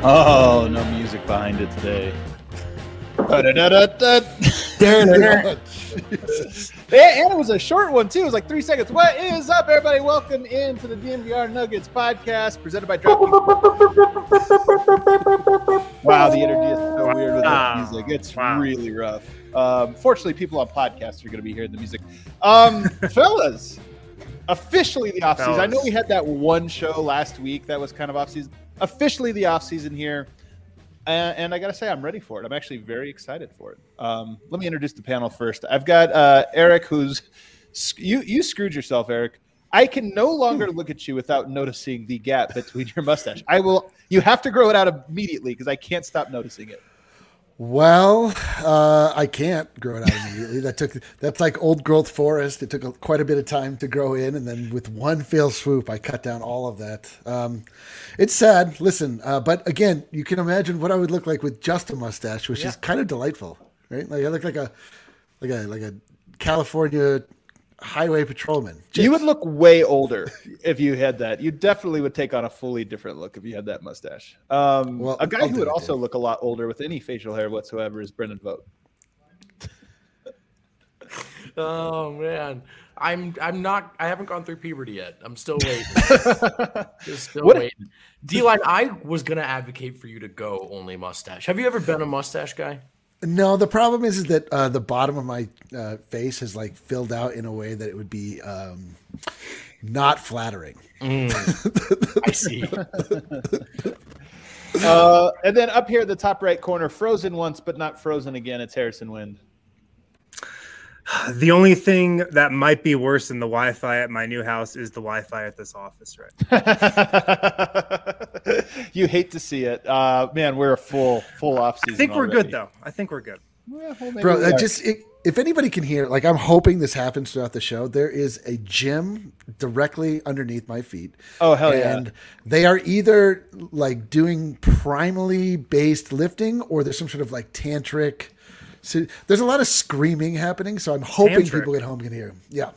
Oh, no music behind it today. And it was a short one, too. It was like 3 seconds. What is up, everybody? Welcome into the DNVR Nuggets podcast presented by DraftKings. Wow, the energy is so weird with that music. It's really rough. Fortunately, people on podcasts are going to be hearing the music. Fellas, officially the offseason. I know we had that one show last week that was kind of offseason. Officially the offseason here. And I got to say, I'm ready for it. I'm actually very excited for it. Let me introduce the panel first. I've got Eric, who's you screwed yourself, Eric. I can no longer look at you without noticing the gap between your mustache. You have to grow it out immediately because I can't stop noticing it. Well, I can't grow it out immediately. That's like old growth forest. It took quite a bit of time to grow in, and then with one fell swoop, I cut down all of that. It's sad. Listen, but again, you can imagine what I would look like with just a mustache, which is kind of delightful, right? Like I look like a California highway patrolman. You would look way older if you had that. You definitely would take on a fully different look if you had that mustache. A guy who would also look a lot older with any facial hair whatsoever is Brendan Vogt. Oh man, I haven't gone through puberty yet. I'm still waiting. Waiting. D-Line, I was gonna advocate for you to go only mustache. Have you ever been a mustache guy? No, the problem is that the bottom of my face has like filled out in a way that it would be not flattering. I see. And then up here at the top right corner, frozen once but not frozen again, it's Harrison Wind. The only thing that might be worse than the Wi-Fi at my new house is the Wi-Fi at this office, right? You hate to see it. Man, we're a full off season. I think we're already. Good, though. I think we're good. Well, bro, if anybody can hear, like I'm hoping this happens throughout the show, there is a gym directly underneath my feet. Oh, hell yeah. And they are either like doing primally based lifting or there's some sort of like tantric. So there's a lot of screaming happening, so I'm hoping people at home can hear him. Yeah.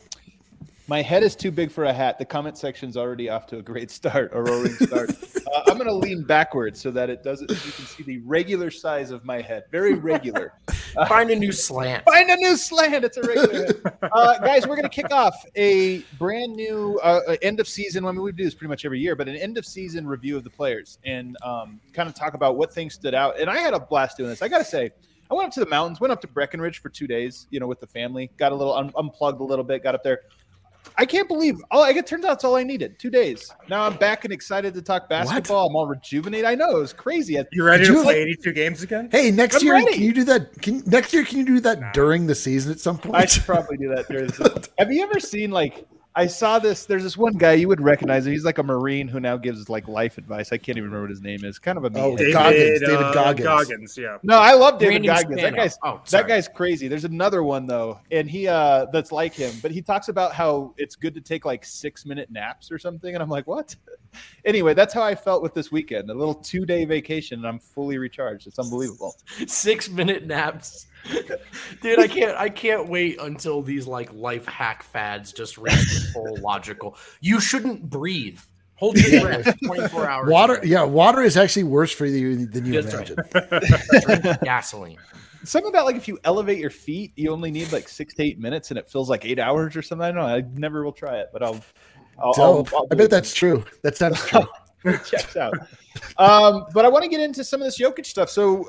My head is too big for a hat. The comment section's already off to a great start, a roaring start. I'm going to lean backwards so that you can see the regular size of my head. Very regular. Find a new slant. Find a new slant. It's a regular head. Guys, we're going to kick off a brand new end of season. I mean, we do this pretty much every year, but an end of season review of the players and kind of talk about what things stood out. And I had a blast doing this. I got to say, I went up to the mountains, went up to Breckenridge for 2 days, with the family, got a little unplugged a little bit, got up there. I can't believe it turns out it's all I needed. 2 days. Now I'm back and excited to talk basketball. What? I'm all rejuvenated. I know, it was crazy. You ready to play 82 games again? Hey, next year, can you do that? Can you do that during the season at some point? I should probably do that during the season. Have you ever seen I saw this. There's this one guy you would recognize him. He's like a Marine who now gives life advice. I can't even remember what his name is. Kind of a David Goggins. Yeah. No, I love David Goggins. Spano. That guy's crazy. There's another one though, and he that's like him, but he talks about how it's good to take 6-minute naps or something, and I'm like, what? Anyway, that's how I felt with this weekend. A little 2-day vacation, and I'm fully recharged. It's unbelievable. 6-minute naps. Dude, I can't wait until these life hack fads just reach full logical. You shouldn't breathe. Hold your breath 24 hours. Water is actually worse for you than you imagine. Drink gasoline. Something about if you elevate your feet, you only need 6 to 8 minutes, and it feels like 8 hours or something. I don't know. I never will try it, but I'll I bet that's true. That sounds true. It checks out. But I want to get into some of this Jokic stuff. So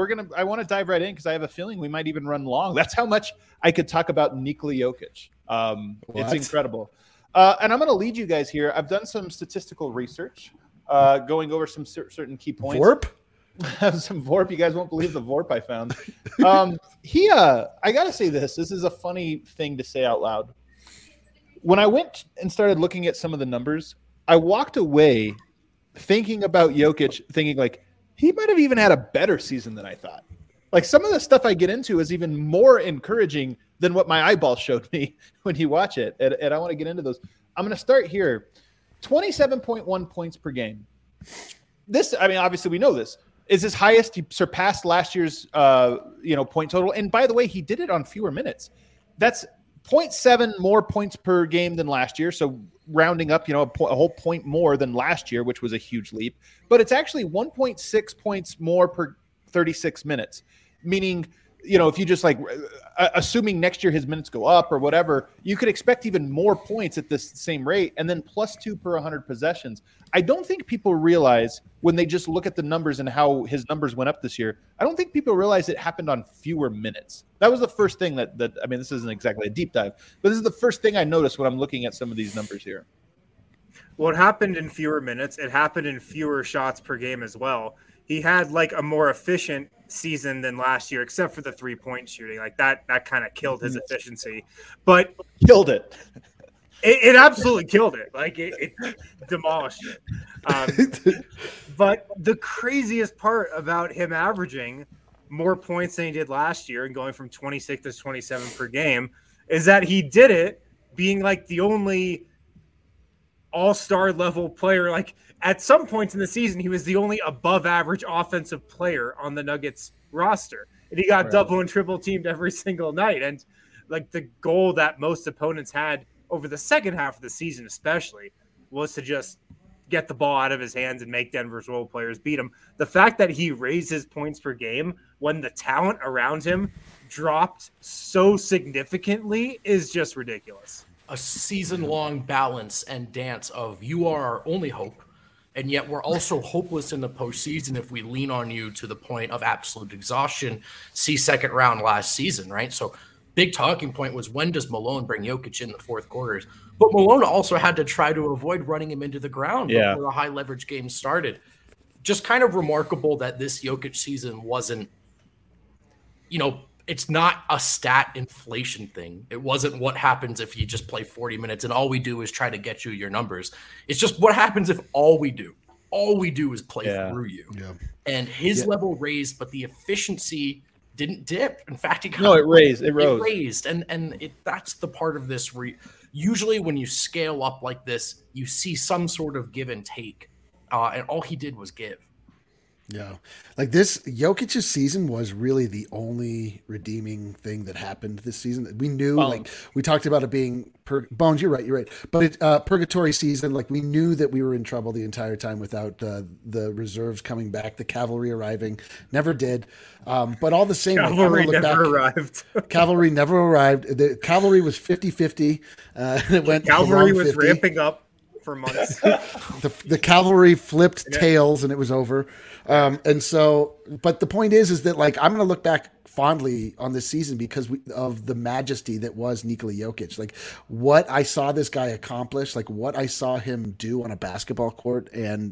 I want to dive right in because I have a feeling we might even run long. That's how much I could talk about Nikola Jokic. It's incredible. And I'm going to lead you guys here. I've done some statistical research, going over some certain key points. VORP? Some VORP. You guys won't believe the VORP I found. I got to say this. This is a funny thing to say out loud. When I went and started looking at some of the numbers, I walked away thinking about Jokic, thinking he might have even had a better season than I thought. Some of the stuff I get into is even more encouraging than what my eyeballs showed me when you watch it. And I want to get into those. I'm going to start here. 27.1 points per game. This, obviously we know this, is his highest. He surpassed last year's, point total. And by the way, he did it on fewer minutes. That's 0.7 more points per game than last year. So rounding up, a whole point more than last year, which was a huge leap. But it's actually 1.6 points more per 36 minutes, meaning, if you just assuming next year his minutes go up or whatever, you could expect even more points at this same rate, and then +2 per 100 possessions. I don't think people realize when they just look at the numbers and how his numbers went up this year. I don't think people realize it happened on fewer minutes. That was the first thing that this isn't exactly a deep dive, but this is the first thing I noticed when I'm looking at some of these numbers here. Well, it happened in fewer minutes. It happened in fewer shots per game as well. He had a more efficient season than last year, except for the 3-point shooting. That kind of killed his efficiency, but killed it. It absolutely killed it. It demolished it. But the craziest part about him averaging more points than he did last year and going from 26 to 27 per game is that he did it being the only all-star level player. At some points in the season, he was the only above average offensive player on the Nuggets roster. And he got double and triple teamed every single night. And the goal that most opponents had over the second half of the season, especially, was to just get the ball out of his hands and make Denver's role players beat him. The fact that he raised his points per game when the talent around him dropped so significantly is just ridiculous. A season-long balance and dance of you are our only hope, and yet we're also hopeless in the postseason if we lean on you to the point of absolute exhaustion. See second round last season, right? So big talking point was, when does Malone bring Jokic in the fourth quarters? But Malone also had to try to avoid running him into the ground before the high leverage game started. Just kind of remarkable that this Jokic season wasn't, it's not a stat inflation thing. It wasn't what happens if you just play 40 minutes and all we do is try to get you your numbers. It's just what happens if all we do is play through you. Yeah. And his level raised, but the efficiency didn't dip. In fact, it rose. It raised. And that's the part of this where usually when you scale up like this, you see some sort of give and take. And all he did was give. Yeah. This Jokic's season was really the only redeeming thing that happened this season. We knew, we talked about it being Bones, you're right. But it purgatory season, we knew that we were in trouble the entire time without the reserves coming back, the cavalry arriving. Never did. But all the same, cavalry never arrived. Cavalry never arrived. The cavalry was 50-50. It went cavalry was 50. Ramping up for months. the cavalry flipped tails and it was over. And so, but the point is that I'm going to look back fondly on this season because of the majesty that was Nikola Jokic. What I saw this guy accomplish, what I saw him do on a basketball court, and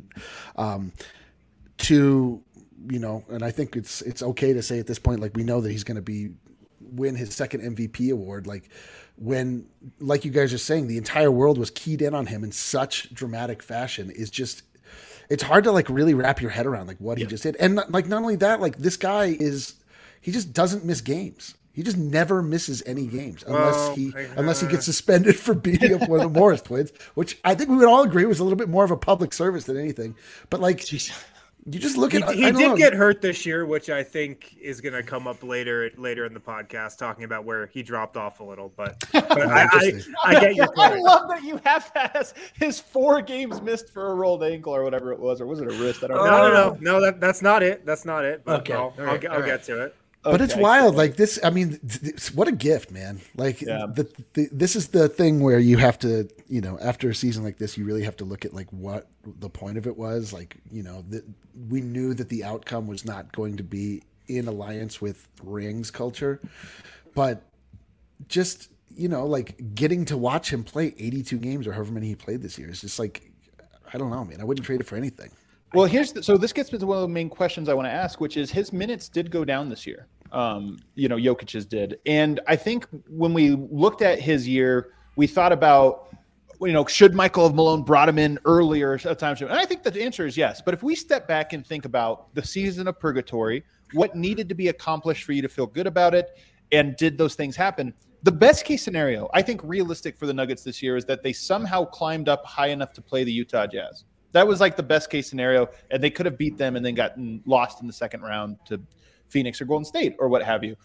and I think it's okay to say at this point, we know that he's going to win his second MVP award. When, you guys are saying, the entire world was keyed in on him in such dramatic fashion is just, it's hard to really wrap your head around what he just did. And not only that, this guy he just doesn't miss games. He just never misses any games unless he gets suspended for beating up one of the Morris twins, which I think we would all agree was a little bit more of a public service than anything. But you just look at he did get hurt this year, which I think is going to come up later in the podcast, talking about where he dropped off a little. But I get your point. I love that you have that his 4 games missed for a rolled ankle or whatever it was, or was it a wrist? I don't know. No, that's not it. That's not it. But okay. I'll get to it. But it's wild. This, what a gift, man. This is the thing where you have to, after a season like this, you really have to look at what the point of it was. We knew that the outcome was not going to be in alliance with rings culture, but just, getting to watch him play 82 games or however many he played this year is just I don't know, man. I wouldn't trade it for anything. Well, so this gets me to one of the main questions I want to ask, which is his minutes did go down this year. Jokic's did. And I think when we looked at his year, we thought about, should Michael have Malone brought him in earlier at times? And I think the answer is yes. But if we step back and think about the season of purgatory, what needed to be accomplished for you to feel good about it, and did those things happen? The best case scenario, I think realistic for the Nuggets this year, is that they somehow climbed up high enough to play the Utah Jazz. That was the best case scenario, and they could have beat them and then gotten lost in the second round to Phoenix or Golden State or what have you.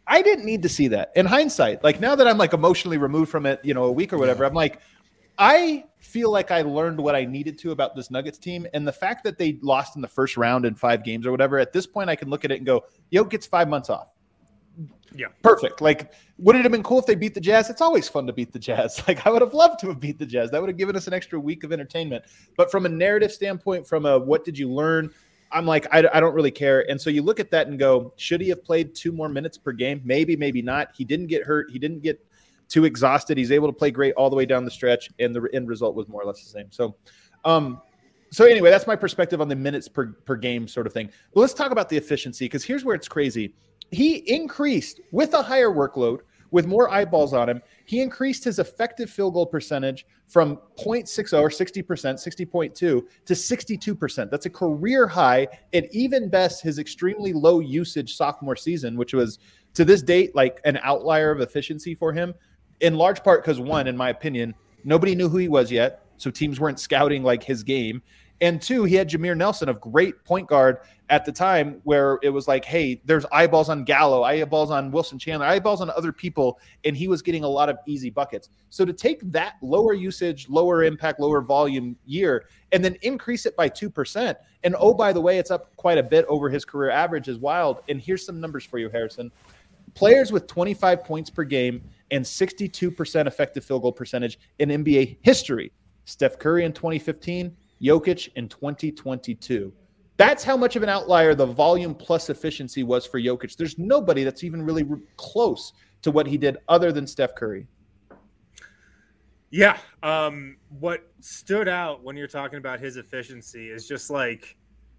I didn't need to see that. In hindsight, like now that I'm like emotionally removed from it, a week or whatever, I'm like, I feel like I learned what I needed to about this Nuggets team. And the fact that they lost in the first round in 5 games or whatever, at this point I can look at it and go, Jokic gets 5 months off. Yeah. Perfect. Like, would it have been cool if they beat the Jazz? It's always fun to beat the Jazz. Like, I would have loved to have beat the Jazz. That would have given us an extra week of entertainment. But from a narrative standpoint, from a what did you learn, I'm like, I don't really care. And so you look at that and go, should he have played 2 more minutes per game? Maybe, maybe not. He didn't get hurt. He didn't get too exhausted. He's able to play great all the way down the stretch, and the end result was more or less the same. So anyway, that's my perspective on the minutes per game sort of thing. But let's talk about the efficiency, because here's where it's crazy. He increased with a higher workload, with more eyeballs on him. He increased his effective field goal percentage from 0.60 or 60%, 60.2 to 62%. That's a career high. And even best, his extremely low usage sophomore season, which was to this date like an outlier of efficiency for him, in large part because, one, in my opinion, nobody knew who he was yet, so teams weren't scouting like his game. And 2, he had Jameer Nelson, a great point guard at the time, where it was like, hey, there's eyeballs on Gallo, eyeballs on Wilson Chandler, eyeballs on other people, and he was getting a lot of easy buckets. So to take that lower usage, lower impact, lower volume year and then increase it by 2%, and oh, by the way, it's up quite a bit over his career average is wild. And here's some numbers for you, Harrison. Players with 25 points per game and 62% effective field goal percentage in NBA history. Steph Curry in 2015, Jokic in 2022. That's how much of an outlier the volume plus efficiency was for Jokic. There's nobody that's even really close to what he did other than Steph Curry. Yeah. What stood out when you're talking about his efficiency is just like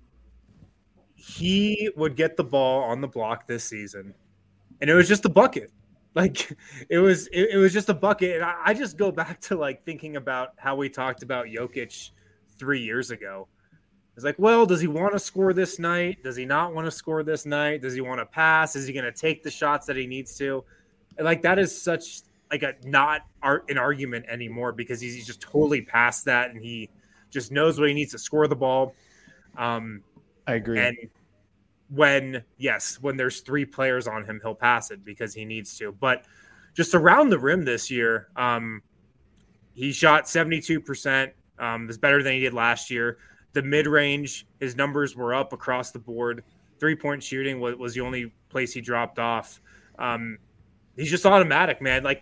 he would get the ball on the block this season, and it was just a bucket. Like it was just a bucket. And I just go back to like thinking about how we talked about Jokic 3 years ago. It's like, well, does he want to score this night? Does he not want to score this night? Does he want to pass? Is he going to take the shots that he needs to? And like, that is such like not an argument anymore, because he's just totally past that. And he just knows what he needs to score the ball. I agree. And when there's 3 players on him, he'll pass it because he needs to. But just around the rim this year, he shot 72%. That's better than he did last year. The mid-range, his numbers were up across the board. 3-point shooting was the only place he dropped off. He's just automatic, man. Like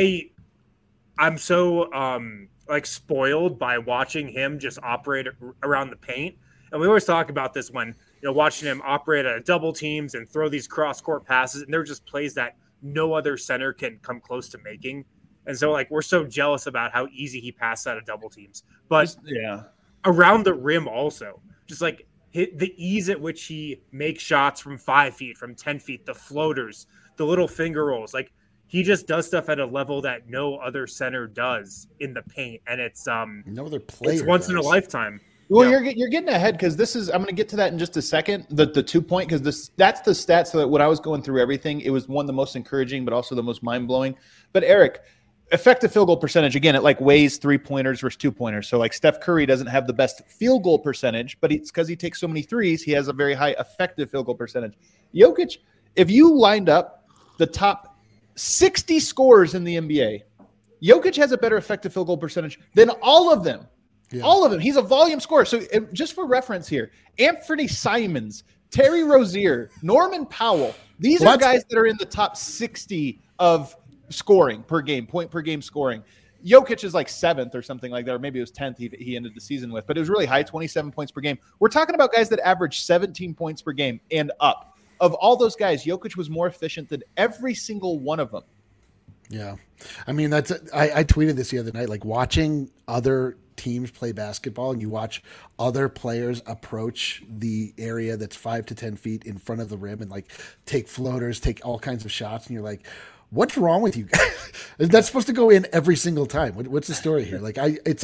I'm so like spoiled by watching him just operate around the paint. And we always talk about this when, watching him operate at double teams and throw these cross-court passes, and they're just plays that no other center can come close to making. And so, like, we're so jealous about how easy he passed out of double teams. But around the rim also, just like the ease at which he makes shots from 5 feet, from 10 feet, the floaters, the little finger rolls. Like, he just does stuff at a level that no other center does in the paint. And it's no other player it's once in a lifetime. Well, you're getting ahead, because this is – I'm going to get to that in just a second, the 2-point, because that's the stats that when I was going through everything, it was one of the most encouraging but also the most mind-blowing. But, Eric, effective field goal percentage, again, it like weighs 3-pointers versus 2-pointers. So, like, Steph Curry doesn't have the best field goal percentage, but it's because he takes so many threes, he has a very high effective field goal percentage. Jokic, if you lined up the top 60 scorers in the NBA, Jokic has a better effective field goal percentage than all of them. Yeah. All of them. He's a volume scorer. So just for reference here, Anthony Simons, Terry Rozier, Norman Powell, these are guys that are in the top 60 of scoring per game, point per game scoring. Jokic is like 7th or something like that, or maybe it was 10th he ended the season with, but it was really high, 27 points per game. We're talking about guys that average 17 points per game and up. Of all those guys, Jokic was more efficient than every single one of them. Yeah. I mean, I tweeted this the other night, like watching other teams play basketball and you watch other players approach the area that's 5 to 10 feet in front of the rim and like take floaters, take all kinds of shots. And you're like, what's wrong with you guys? That's supposed to go in every single time. What's the story here? Like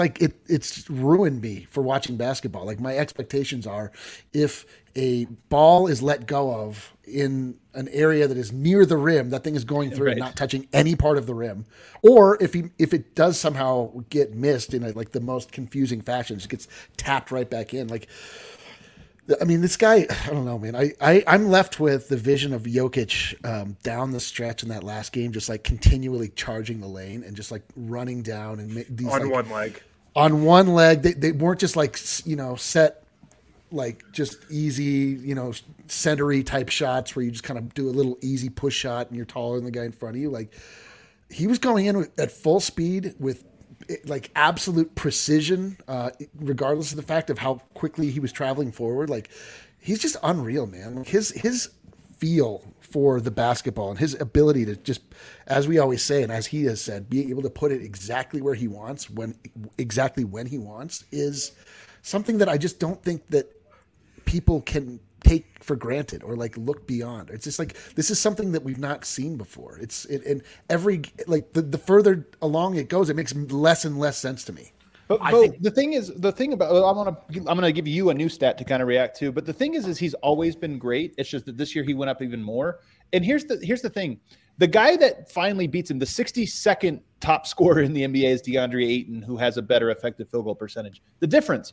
it's ruined me for watching basketball. Like my expectations are, if a ball is let go of in an area that is near the rim, that thing is going through and not touching any part of the rim. Or if it does somehow get missed in like the most confusing fashion, it gets tapped right back in. Like I mean, this guy, I don't know, man. I'm left with the vision of Jokic down the stretch in that last game, just like continually charging the lane and just like running down and these on like, one leg. On one leg, they weren't just like, set like just easy, centery type shots where you just kind of do a little easy push shot and you're taller than the guy in front of you. Like he was going in at full speed with like absolute precision, regardless of the fact of how quickly he was traveling forward. Like he's just unreal, man. Like his feel for the basketball and his ability to just, as we always say, and as he has said, be able to put it exactly where he wants, when he wants, is something that I just don't think that people can take for granted or like look beyond. It's just like, this is something that we've not seen before. And every, like the further along it goes, it makes less and less sense to me. But the thing about I'm gonna give you a new stat to kind of react to. But the thing is he's always been great. It's just that this year he went up even more. And here's the thing: the guy that finally beats him, the 62nd top scorer in the NBA, is DeAndre Ayton, who has a better effective field goal percentage. The difference: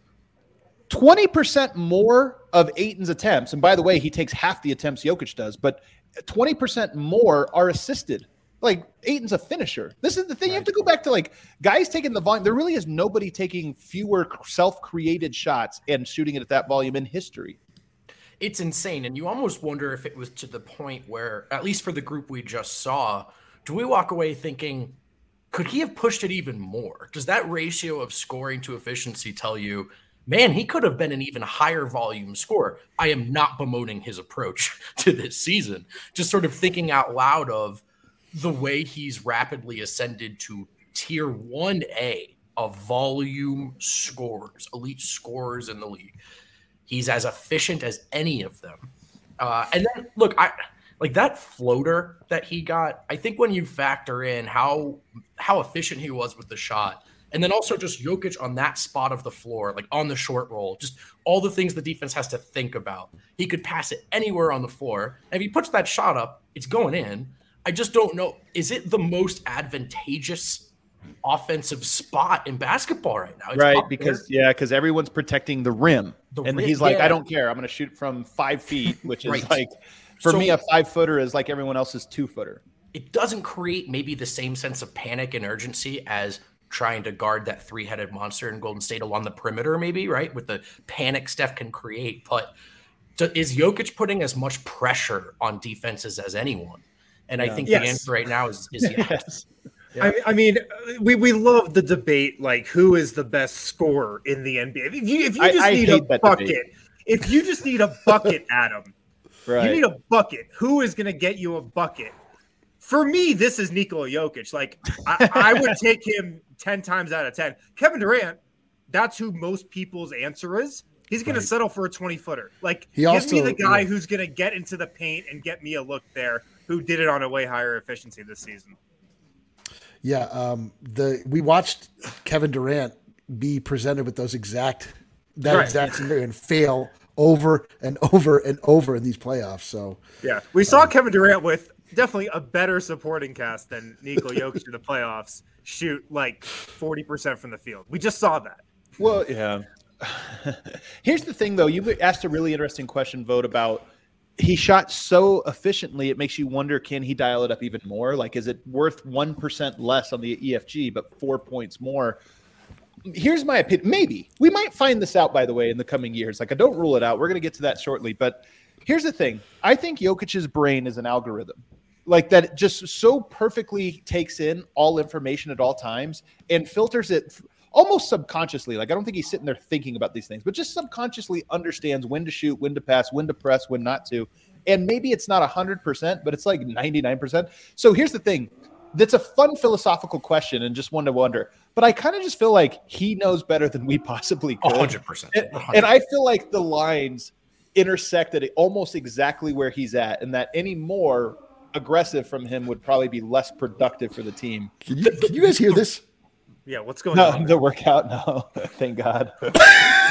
20% more of Ayton's attempts, and by the way, he takes half the attempts Jokic does, but 20% more are assisted. Like, Ayton's a finisher. This is the thing. Right. You have to go back to, like, guys taking the volume. There really is nobody taking fewer self-created shots and shooting it at that volume in history. It's insane. And you almost wonder if it was to the point where, at least for the group we just saw, do we walk away thinking, could he have pushed it even more? Does that ratio of scoring to efficiency tell you, man, he could have been an even higher volume scorer? I am not bemoaning his approach to this season. Just sort of thinking out loud of the way he's rapidly ascended to tier 1A of volume scorers, elite scorers in the league. He's as efficient as any of them. And then, look, like that floater that he got, I think when you factor in how efficient he was with the shot, and then also just Jokic on that spot of the floor, like on the short roll, just all the things the defense has to think about. He could pass it anywhere on the floor. And if he puts that shot up, it's going in. I just don't know. Is it the most advantageous offensive spot in basketball right now? It's right, because everyone's protecting the rim. He's like, I don't care. I'm going to shoot from 5 feet, which is right. Like, for me, a 5-footer is like everyone else's 2-footer. It doesn't create maybe the same sense of panic and urgency as trying to guard that 3-headed monster in Golden State along the perimeter, maybe, right? With the panic Steph can create. But is Jokic putting as much pressure on defenses as anyone? And I think the answer right now is yes. Yeah. I mean, we love the debate, like, who is the best scorer in the NBA? If you just need a bucket, if you just need a bucket, Adam, right. You need a bucket. Who is going to get you a bucket? For me, this is Nikola Jokic. Like, I would take him 10 times out of 10. Kevin Durant, that's who most people's answer is. He's going to settle for a 20-footer. Like, give me the guy who's going to get into the paint and get me a look there, who did it on a way higher efficiency this season. Yeah, we watched Kevin Durant be presented with exact scenario and fail over and over and over in these playoffs. So yeah, we saw Kevin Durant with definitely a better supporting cast than Nikola Jokic in the playoffs shoot like 40% from the field. We just saw that. Well, yeah. Here's the thing, though. You asked a really interesting question, Vogt, about he shot so efficiently, it makes you wonder, can he dial it up even more? Like, is it worth 1% less on the EFG, but 4 points more? Here's my opinion. Maybe. We might find this out, by the way, in the coming years. Like, I don't rule it out. We're going to get to that shortly. But here's the thing. I think Jokic's brain is an algorithm. Like, that it just so perfectly takes in all information at all times and filters it almost subconsciously. Like, I don't think he's sitting there thinking about these things, but just subconsciously understands when to shoot, when to pass, when to press, when not to. And maybe it's not 100%, but it's like 99%. So here's the thing. That's a fun philosophical question and just one to wonder. But I kind of just feel like he knows better than we possibly could. 100%. And I feel like the lines intersect at almost exactly where he's at, and that any more aggressive from him would probably be less productive for the team. Can you guys hear this? Yeah, what's going on? The workout? No, thank God.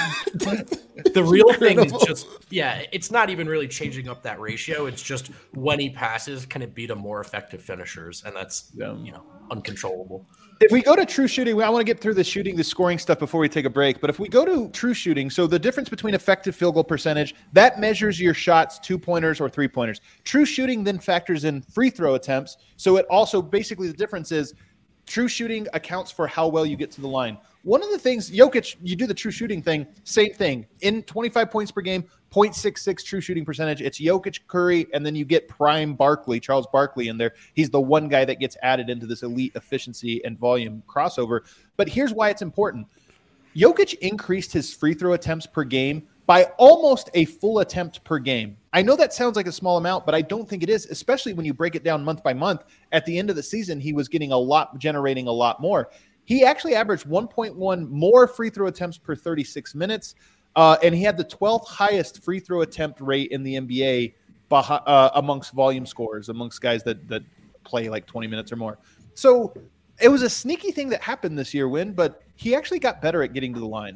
The real thing is just, it's not even really changing up that ratio. It's just when he passes, can it beat a more effective finishers? And that's, uncontrollable. If we go to true shooting, I want to get through the scoring stuff before we take a break. But if we go to true shooting, so the difference between effective field goal percentage, that measures your shots, 2-pointers or 3-pointers. True shooting then factors in free throw attempts. So it also, basically the difference is true shooting accounts for how well you get to the line. One of the things, Jokic, you do the true shooting thing, same thing. In 25 points per game, 0.66 true shooting percentage. It's Jokic, Curry, and then you get prime Barkley, Charles Barkley in there. He's the one guy that gets added into this elite efficiency and volume crossover. But here's why it's important. Jokic increased his free throw attempts per game by almost a full attempt per game. I know that sounds like a small amount, but I don't think it is, especially when you break it down month by month. At the end of the season, he was generating a lot more. He actually averaged 1.1 more free throw attempts per 36 minutes, and he had the 12th highest free throw attempt rate in the NBA amongst volume scorers, amongst guys that play like 20 minutes or more. So it was a sneaky thing that happened this year, but he actually got better at getting to the line.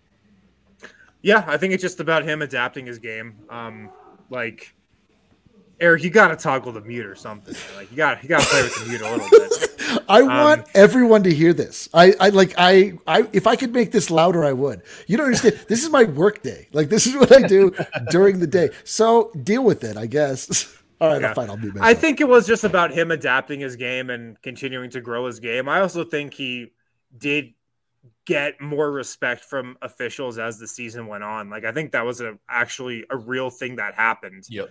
Yeah, I think it's just about him adapting his game. Eric, you got to toggle the mute or something. Like you got to play with the mute a little bit. I want everyone to hear this. I if I could make this louder, I would. You don't understand. This is my work day. Like this is what I do during the day. So deal with it, I guess. All right, fine. I'll be. I think it was just about him adapting his game and continuing to grow his game. I also think he did get more respect from officials as the season went on. Like I think that was actually a real thing that happened. Yep.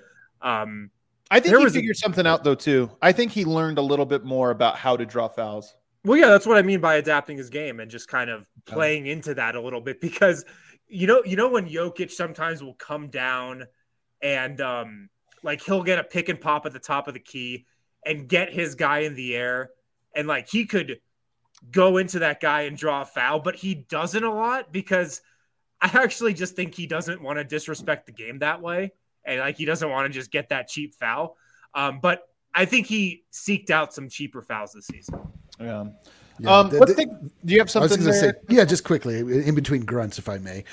I think he figured something out though too. I think he learned a little bit more about how to draw fouls. Well, yeah, that's what I mean by adapting his game and just kind of playing into that a little bit because you know when Jokic sometimes will come down and he'll get a pick and pop at the top of the key and get his guy in the air and like he could go into that guy and draw a foul, but he doesn't a lot because I actually just think he doesn't want to disrespect the game that way. And like he doesn't want to just get that cheap foul. But I think he seeked out some cheaper fouls this season. Yeah. Do you have something to say? Yeah, just quickly, in between grunts, if I may.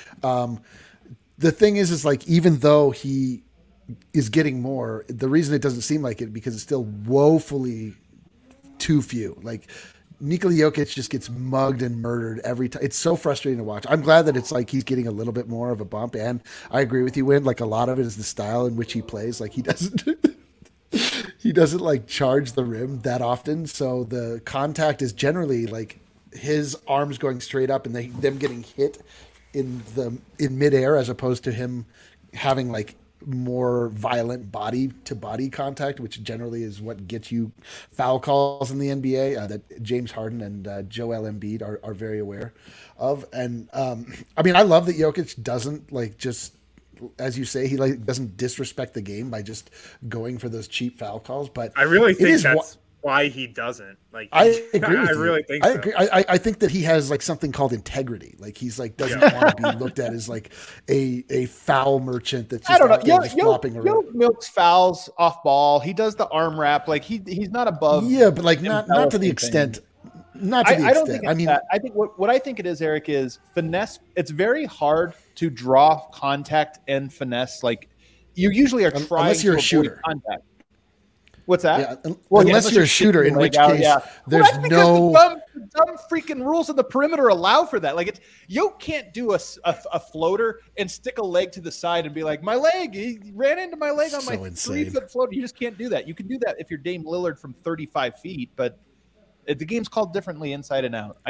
The thing is like even though he is getting more, the reason it doesn't seem like it because it's still woefully too few. Like Nikola Jokic just gets mugged and murdered every time. It's so frustrating to watch. I'm glad that it's like he's getting a little bit more of a bump. And I agree with you, Win. Like a lot of it is the style in which he plays. Like he doesn't like charge the rim that often. So the contact is generally like his arms going straight up and them getting hit in midair as opposed to him having like more violent body to body contact, which generally is what gets you foul calls in the NBA that James Harden and Joel Embiid are very aware of. And I mean, I love that Jokic doesn't like just, as you say, he like doesn't disrespect the game by just going for those cheap foul calls. But I really think that's why he doesn't. Like I agree. I really think I agree. I think that he has like something called integrity. Like he's like doesn't want to be looked at as like a foul merchant that's just flopping around. Yoke milks fouls off ball. He does the arm wrap. Like he's not above. Yeah, but like not to the extent. Not to the extent. I don't think it's that. I think what I think it is, Eric, is finesse. It's very hard to draw contact and finesse. Like you usually are trying unless you're to a shooter. Contact. What's that? Yeah, unless you're a shooter, in which case there's no the dumb freaking rules of the perimeter allow for that. Like you can't do a floater and stick a leg to the side and be like, my leg, he ran into my leg on my 3-foot floater. You just can't do that. You can do that if you're Dame Lillard from 35 feet, but the game's called differently inside and out.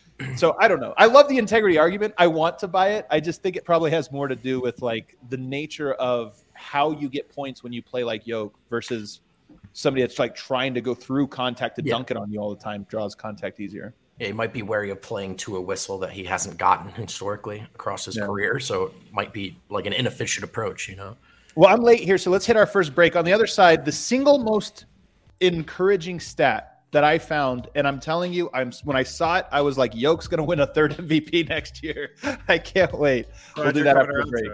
So I don't know. I love the integrity argument. I want to buy it. I just think it probably has more to do with like the nature of how you get points when you play like Yoke versus somebody that's like trying to go through contact to dunk it on you all the time, draws contact easier. Yeah, he might be wary of playing to a whistle that he hasn't gotten historically across his career. So it might be like an inefficient approach, Well, I'm late here, so let's hit our first break. On the other side, the single most encouraging stat that I found, and I'm telling you, when I saw it, I was like, Yoke's going to win a third MVP next year. I can't wait. We'll do that after the break.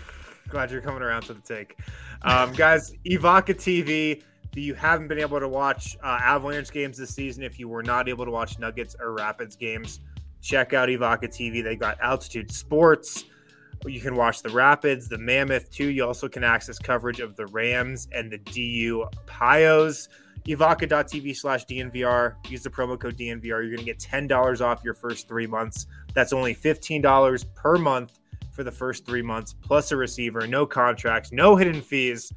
Glad you're coming around to the take. Guys, Evoca TV. If you haven't been able to watch Avalanche games this season, if you were not able to watch Nuggets or Rapids games, check out Evoca TV. They got Altitude Sports, You can watch the Rapids, the Mammoth too. You also can access coverage of the Rams and the DU Pios. Evoca.tv/DNVR. Use the promo code DNVR. You're going to get $10 off your first 3 months. That's only $15 per month for the first 3 months, plus a receiver, no contracts, no hidden fees.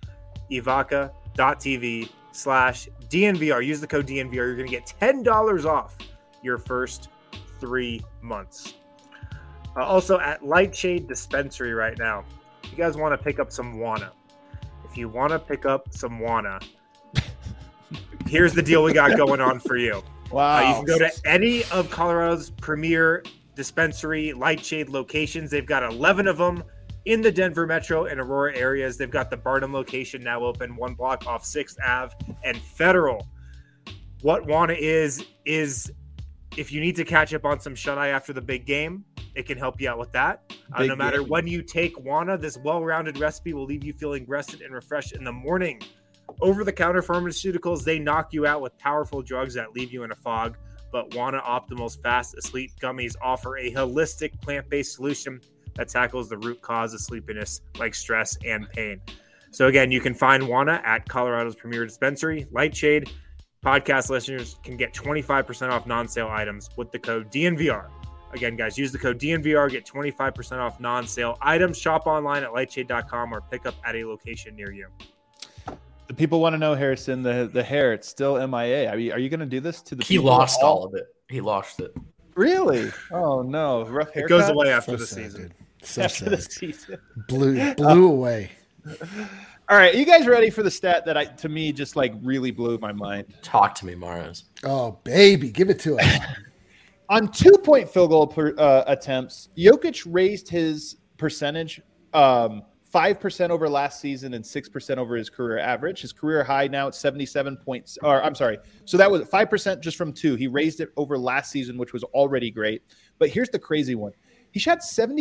Evoca.tv/DNVR. Use the code DNVR. You're going to get $10 off your first 3 months. Also at Lightshade Dispensary right now, if you guys want to pick up some Wana. If you want to pick up some Wana, here's the deal we got going on for you. Wow. You can go to any of Colorado's premier dispensary Lightshade locations. They've got 11 of them in the Denver Metro and Aurora areas. They've got the Barnum location now open, 1 block off 6th Ave and Federal. What Wana is if you need to catch up on some shut-eye after the big game, it can help you out with that. No matter when you take Wana, this well-rounded recipe will leave you feeling rested and refreshed in the morning. Over-the-counter pharmaceuticals, they knock you out with powerful drugs that leave you in a fog. But Wana Optimal's Fast Asleep Gummies offer a holistic plant-based solution that tackles the root cause of sleepiness like stress and pain. So again, you can find Wana at Colorado's premier dispensary, Lightshade. Podcast listeners can get 25% off non-sale items with the code DNVR. Again, guys, use the code DNVR, get 25% off non-sale items. Shop online at lightshade.com or pick up at a location near you. The people want to know, Harrison, the hair, it's still MIA. Are you going to do this to the He people? lost all of it. He lost it. Really? Oh, no. Rough haircut? It goes away after So the sad, season. dude. So After the sad. season. Blew away. All right. Are you guys ready for the stat that to me just like really blew my mind? Talk to me, Maras. Oh, baby, give it to us. On 2-point field goal attempts, Jokic raised his percentage 5% over last season and 6% over his career average. His career high now at 77 points. Or I'm sorry. So that was 5% just from 2. He raised it over last season, which was already great. But here's the crazy one. He shot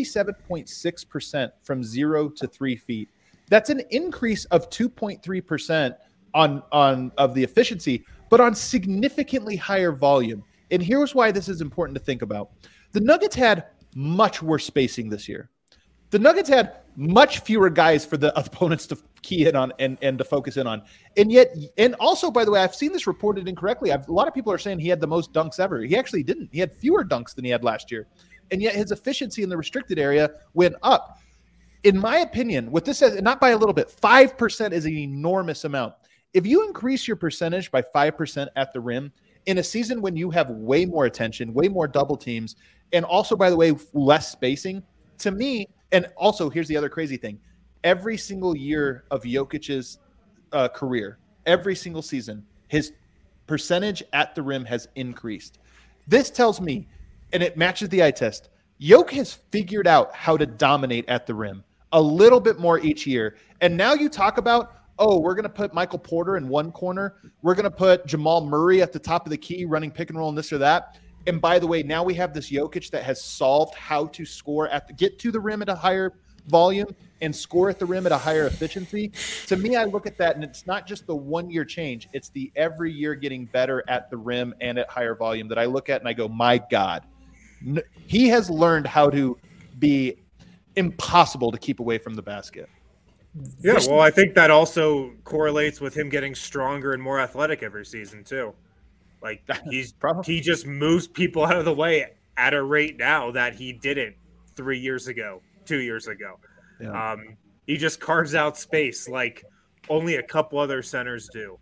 77.6% from 0 to 3 feet. That's an increase of 2.3% of the efficiency, but on significantly higher volume. And here's why this is important to think about. The Nuggets had much worse spacing this year. The Nuggets had much fewer guys for the opponents to key in on and to focus in on. And also, by the way, I've seen this reported incorrectly. A lot of people are saying he had the most dunks ever. He actually didn't. He had fewer dunks than he had last year. And yet his efficiency in the restricted area went up. In my opinion, what this says, not by a little bit, 5% is an enormous amount. If you increase your percentage by 5% at the rim in a season when you have way more attention, way more double teams, and also, by the way, less spacing, to me, and also here's the other crazy thing. Every single year of Jokic's career, every single season, his percentage at the rim has increased. This tells me, and it matches the eye test, Jokic has figured out how to dominate at the rim a little bit more each year. And now you talk about, oh, we're going to put Michael Porter in one corner. We're going to put Jamal Murray at the top of the key running pick and roll and this or that. And by the way, now we have this Jokic that has solved how to score get to the rim at a higher volume and score at the rim at a higher efficiency. To me, I look at that and it's not just the 1 year change. It's the every year getting better at the rim and at higher volume that I look at and I go, my God, he has learned how to be impossible to keep away from the basket. Yeah, well, I think that also correlates with him getting stronger and more athletic every season too. Like he just moves people out of the way at a rate now that he didn't 3 years ago, 2 years ago. Yeah. He just carves out space like only a couple other centers do.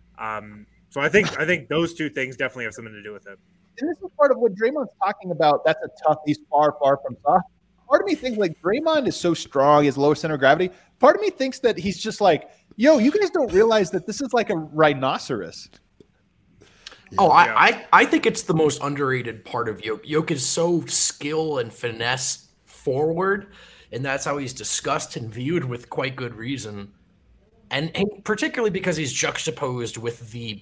So I think those two things definitely have something to do with it. And this is part of what Draymond's talking about. That's a tough. He's far from soft. Part of me thinks like Draymond is so strong, his lower center of gravity. Part of me thinks that he's just like, yo, you guys don't realize that this is like a rhinoceros. Oh, I think it's the most underrated part of Jokic. Jokic is so skill and finesse forward, and that's how he's discussed and viewed with quite good reason. And particularly because he's juxtaposed with the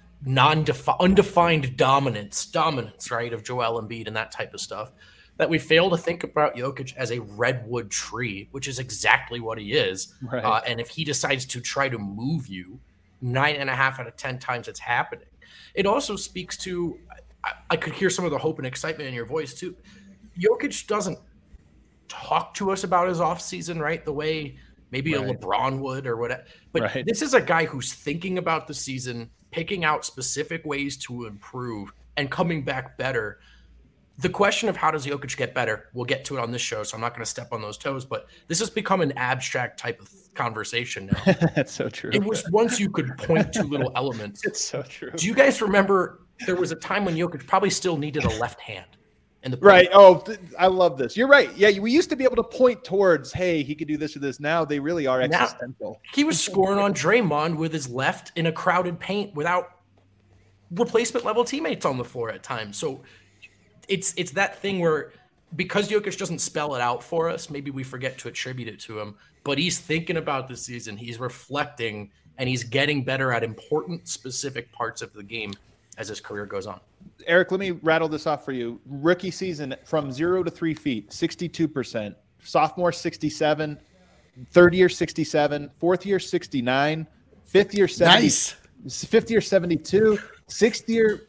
undefined dominance, right, of Joel Embiid and that type of stuff, that we fail to think about Jokic as a redwood tree, which is exactly what he is. Right. And if he decides to try to move you, 9.5 out of 10 times it's happening. It also speaks to, I could hear some of the hope and excitement in your voice too. Jokic doesn't talk to us about his offseason, right? The way maybe a LeBron would or whatever. But this is a guy who's thinking about the season, picking out specific ways to improve and coming back better. The question of how does Jokic get better, we'll get to it on this show, so I'm not going to step on those toes, but this has become an abstract type of conversation now. That's so true. It was once you could point to little elements. It's so true. Do you guys remember there was a time when Jokic probably still needed a left hand? Right. Oh, I love this. You're right. Yeah, we used to be able to point towards, hey, he could do this or this. Now they really are existential. He was scoring on Draymond with his left in a crowded paint without replacement level teammates on the floor at times. So it's that thing where because Jokic doesn't spell it out for us, maybe we forget to attribute it to him, but he's thinking about the season, he's reflecting, and he's getting better at important specific parts of the game as his career goes on. Eric, let me rattle this off for you. Rookie season from 0 to 3 feet, 62%. Sophomore, 67. Third year, 67. Fourth year, 69. Fifth year, 70. Nice. Fifth year, 72. Fifth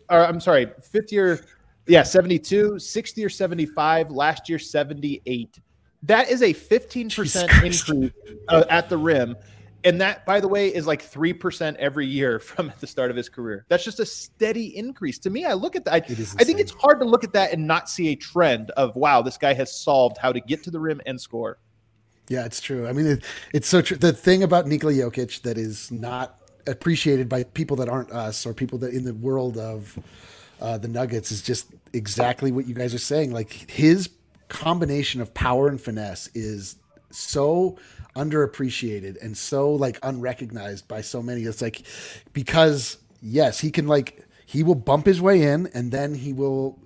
year, 72. Sixth year, 75. Last year, 78. That is a 15% increase at the rim. And that, by the way, is like 3% every year from the start of his career. That's just a steady increase. To me, I look at that. I think it's hard to look at that and not see a trend of, wow, this guy has solved how to get to the rim and score. Yeah, it's true. I mean, it's so true. The thing about Nikola Jokic that is not appreciated by people that aren't us or people that in the world of the Nuggets is just exactly what you guys are saying. Like his combination of power and finesse is so underappreciated and so like unrecognized by so many. It's like, because yes, he will bump his way in and then he will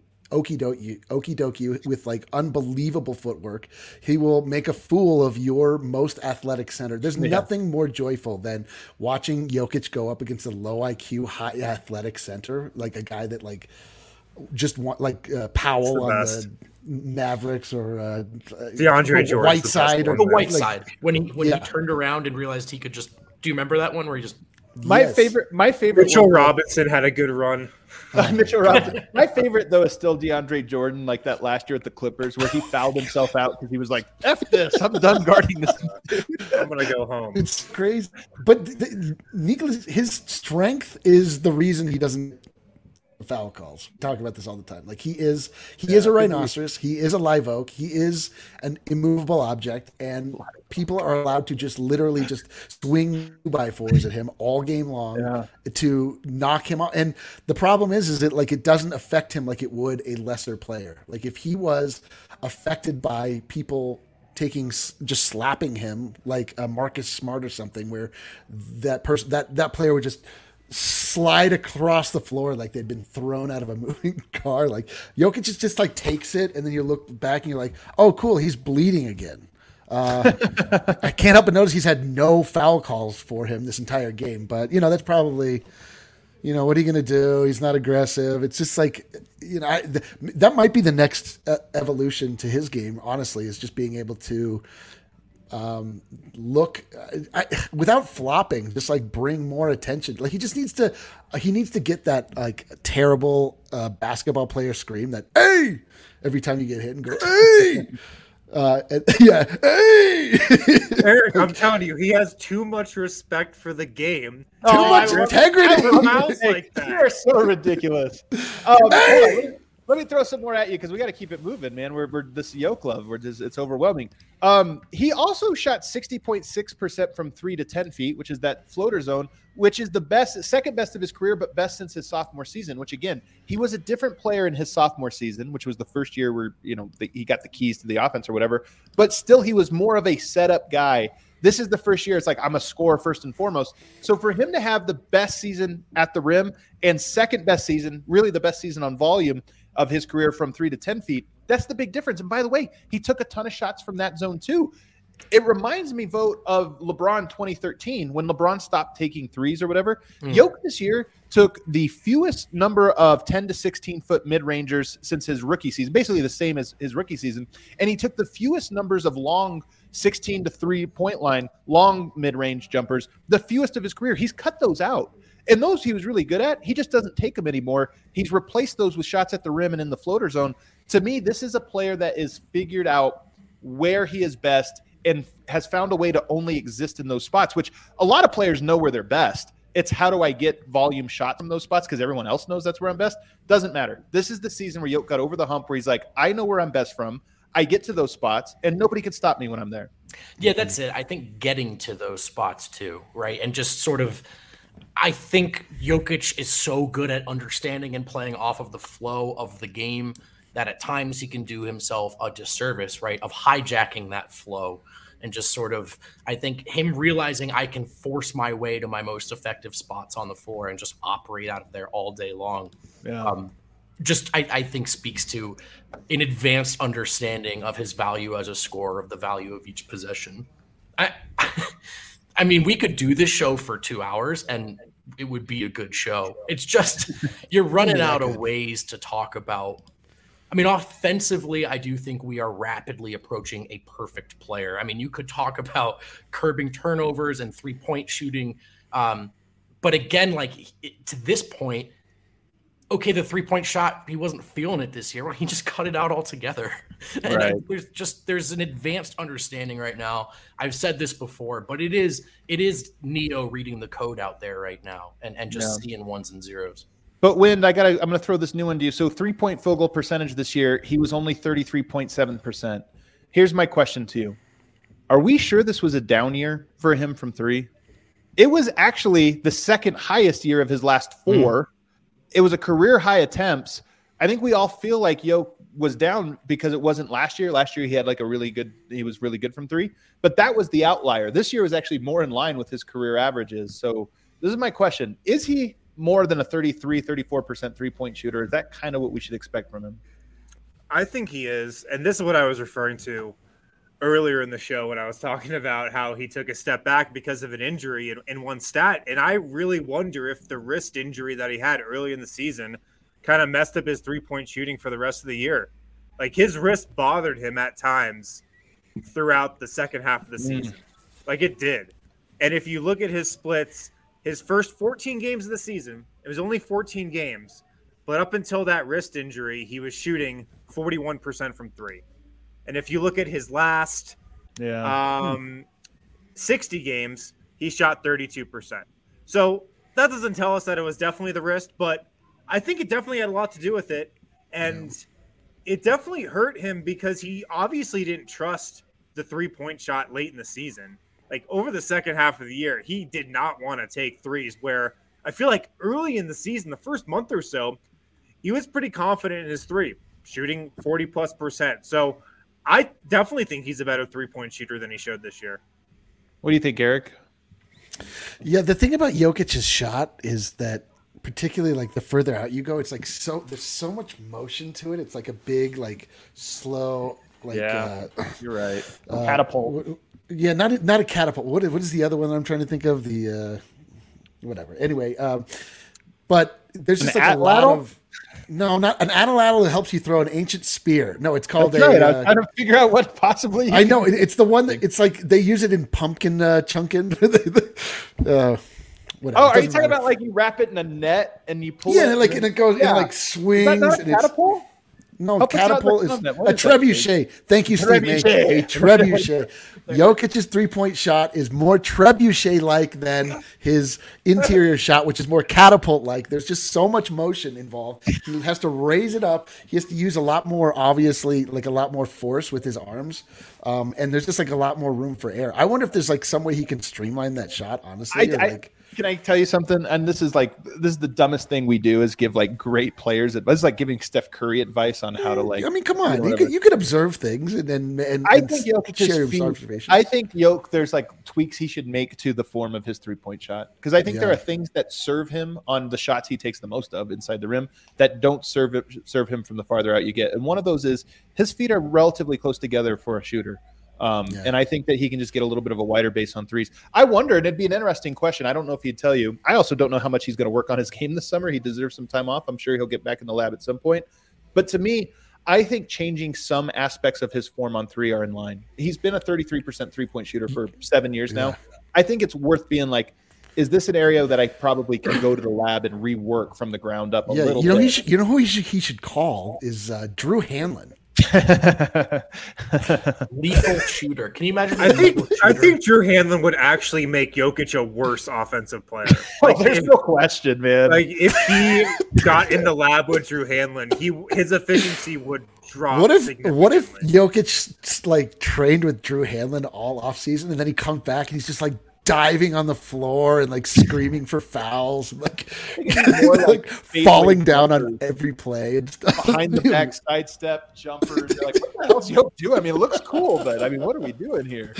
okie-dokie with like unbelievable footwork. He will make a fool of your most athletic center. There's nothing more joyful than watching Jokic go up against a low IQ, high athletic center, like a guy that like just want like Powell on the Mavericks or DeAndre Jordan, Whiteside, or the Whiteside when he turned around and realized he could just. Do you remember that one where he just? My favorite. Mitchell Robinson had a good run. Mitchell Robinson. My favorite though is still DeAndre Jordan, like that last year at the Clippers where he fouled himself out because he was like, "F this, I'm done guarding this. I'm gonna go home." It's crazy, but Nicholas, his strength is the reason he doesn't foul calls. We talk about this all the time. Like he is a rhinoceros. He is a live oak. He is an immovable object, and people are allowed to just literally just swing 2x4s at him all game long to knock him out. And the problem is that like it doesn't affect him like it would a lesser player. Like if he was affected by people just slapping him like a Marcus Smart or something, where that person that player would just slide across the floor like they'd been thrown out of a moving car. Like Jokic just like takes it, and then you look back and you're like, oh cool, he's bleeding again. I can't help but notice he's had no foul calls for him this entire game, but that's probably, what are you going to do? He's not aggressive. It's just like, that might be the next evolution to his game, honestly, is just being able to look without flopping, just like bring more attention. Like he needs to get that like terrible basketball player scream that hey every time you get hit and go hey hey. Eric, I'm telling you, he has too much respect for the game. Too much integrity. Like that. You're so ridiculous. Let me throw some more at you because we got to keep it moving, man. We're this Yoke Love. It's overwhelming. He also shot 60.6% from 3 to 10 feet, which is that floater zone, which is the second best of his career, but best since his sophomore season. Which again, he was a different player in his sophomore season, which was the first year where he got the keys to the offense or whatever. But still, he was more of a setup guy. This is the first year. It's like I'm a scorer first and foremost. So for him to have the best season at the rim and second best season, really the best season on volume of his career from 3 to 10 feet, that's the big difference. And by the way, he took a ton of shots from that zone too. It reminds me, Vogt, of LeBron 2013 when LeBron stopped taking threes or whatever. Jokic this year took the fewest number of 10 to 16 foot mid-rangers since his rookie season, basically the same as his rookie season. And he took the fewest numbers of long 16 to 3-point line, long mid-range jumpers, the fewest of his career. He's cut those out. And those he was really good at. He just doesn't take them anymore. He's replaced those with shots at the rim and in the floater zone. To me, this is a player that is figured out where he is best and has found a way to only exist in those spots, which a lot of players know where they're best. It's how do I get volume shots from those spots because everyone else knows that's where I'm best. Doesn't matter. This is the season where Yoke got over the hump where he's like, I know where I'm best from. I get to those spots and nobody can stop me when I'm there. Yeah, that's it. I think getting to those spots too, right? And just sort of, I think Jokic is so good at understanding and playing off of the flow of the game that at times he can do himself a disservice, right? Of hijacking that flow and just sort of, I think him realizing I can force my way to my most effective spots on the floor and just operate out of there all day long. Yeah. I think speaks to an advanced understanding of his value as a scorer, of the value of each possession. I mean, we could do this show for 2 hours and it would be a good show. It's just you're running out of ways to talk about. I mean, offensively, I do think we are rapidly approaching a perfect player. I mean, you could talk about curbing turnovers and 3-point shooting. But again, to this point, okay, the 3-point shot, he wasn't feeling it this year. Well, he just cut it out altogether. Right. And there's an advanced understanding right now. I've said this before, but it is Neo reading the code out there right now and just seeing ones and zeros. But I'm going to throw this new one to you. So 3-point field goal percentage this year, he was only 33.7%. Here's my question to you. Are we sure this was a down year for him from three? It was actually the second highest year of his last four. It was a career high attempts. I think we all feel like Yoke was down because it wasn't last year. Last year he had he was really good from three, but that was the outlier. This year was actually more in line with his career averages. So this is my question. Is he more than a 34% 3-point shooter? Is that kind of what we should expect from him? I think he is. And this is what I was referring to earlier in the show when I was talking about how he took a step back because of an injury in one stat. And I really wonder if the wrist injury that he had early in the season kind of messed up his 3-point shooting for the rest of the year. Like his wrist bothered him at times throughout the second half of the season. Like it did. And if you look at his splits, his first 14 games of the season, it was only 14 games, but up until that wrist injury, he was shooting 41% from three. And if you look at his last 60 games, he shot 32%. So that doesn't tell us that it was definitely the wrist, but I think it definitely had a lot to do with it. And it definitely hurt him because he obviously didn't trust the 3-point shot late in the season. Like over the second half of the year, he did not want to take threes, where I feel like early in the season, the first month or so, he was pretty confident in his three, shooting 40+%. So I definitely think he's a better 3-point shooter than he showed this year. What do you think, Eric? Yeah, the thing about Jokic's shot is that particularly like the further out you go, it's like there's so much motion to it. It's like a big, slow, you're right. Catapult. Yeah, not a catapult. What is the other one that I'm trying to think of? The whatever. Anyway, but there's just a lot of not an atlatl that helps you throw an ancient spear. No, it's called I was trying to figure out what possibly. I know it's the one that it's like they use it in pumpkin chunkin. Whatever. Are you talking about you wrap it in a net and you pull it? Yeah, and it goes and swings. Is that not a catapult? No, catapult is a trebuchet. Thank you, Steve. A trebuchet. Jokic's 3-point shot is more trebuchet-like than his interior shot, which is more catapult-like. There's just so much motion involved. He has to raise it up. He has to use a lot more, obviously, a lot more force with his arms. And there's just a lot more room for air. I wonder if there's some way he can streamline that shot, honestly. Can I tell you something? And this is the dumbest thing we do is give great players advice. It's like giving Steph Curry advice on how to I mean, come on, you could observe things and I think share observations. I think Yoke, there's tweaks he should make to the form of his 3-point shot because I think there are things that serve him on the shots he takes the most of inside the rim that don't serve him from the farther out you get. And one of those is his feet are relatively close together for a shooter. And I think that he can just get a little bit of a wider base on threes. I wonder, and it'd be an interesting question. I don't know if he'd tell you. I also don't know how much he's going to work on his game this summer. He deserves some time off. I'm sure he'll get back in the lab at some point. But to me, I think changing some aspects of his form on three are in line. He's been a 33% 3-point shooter for 7 years now. I think it's worth being is this an area that I probably can go to the lab and rework from the ground up a little bit? You know who he should call is Drew Hanlon. Lethal shooter. Can you imagine? I think Drew Hanlen would actually make Jokic a worse offensive player. There's no question, man. Like if he got in the lab with Drew Hanlen, his efficiency would drop. What if Jokic like trained with Drew Hanlen all offseason and then he comes back and he's just like diving on the floor and like screaming for fouls and like falling down on every play and stuff. Behind the back sidestep jumpers. You're like, what the hell's Jokic doing? I mean, it looks cool, but I mean, what are we doing here?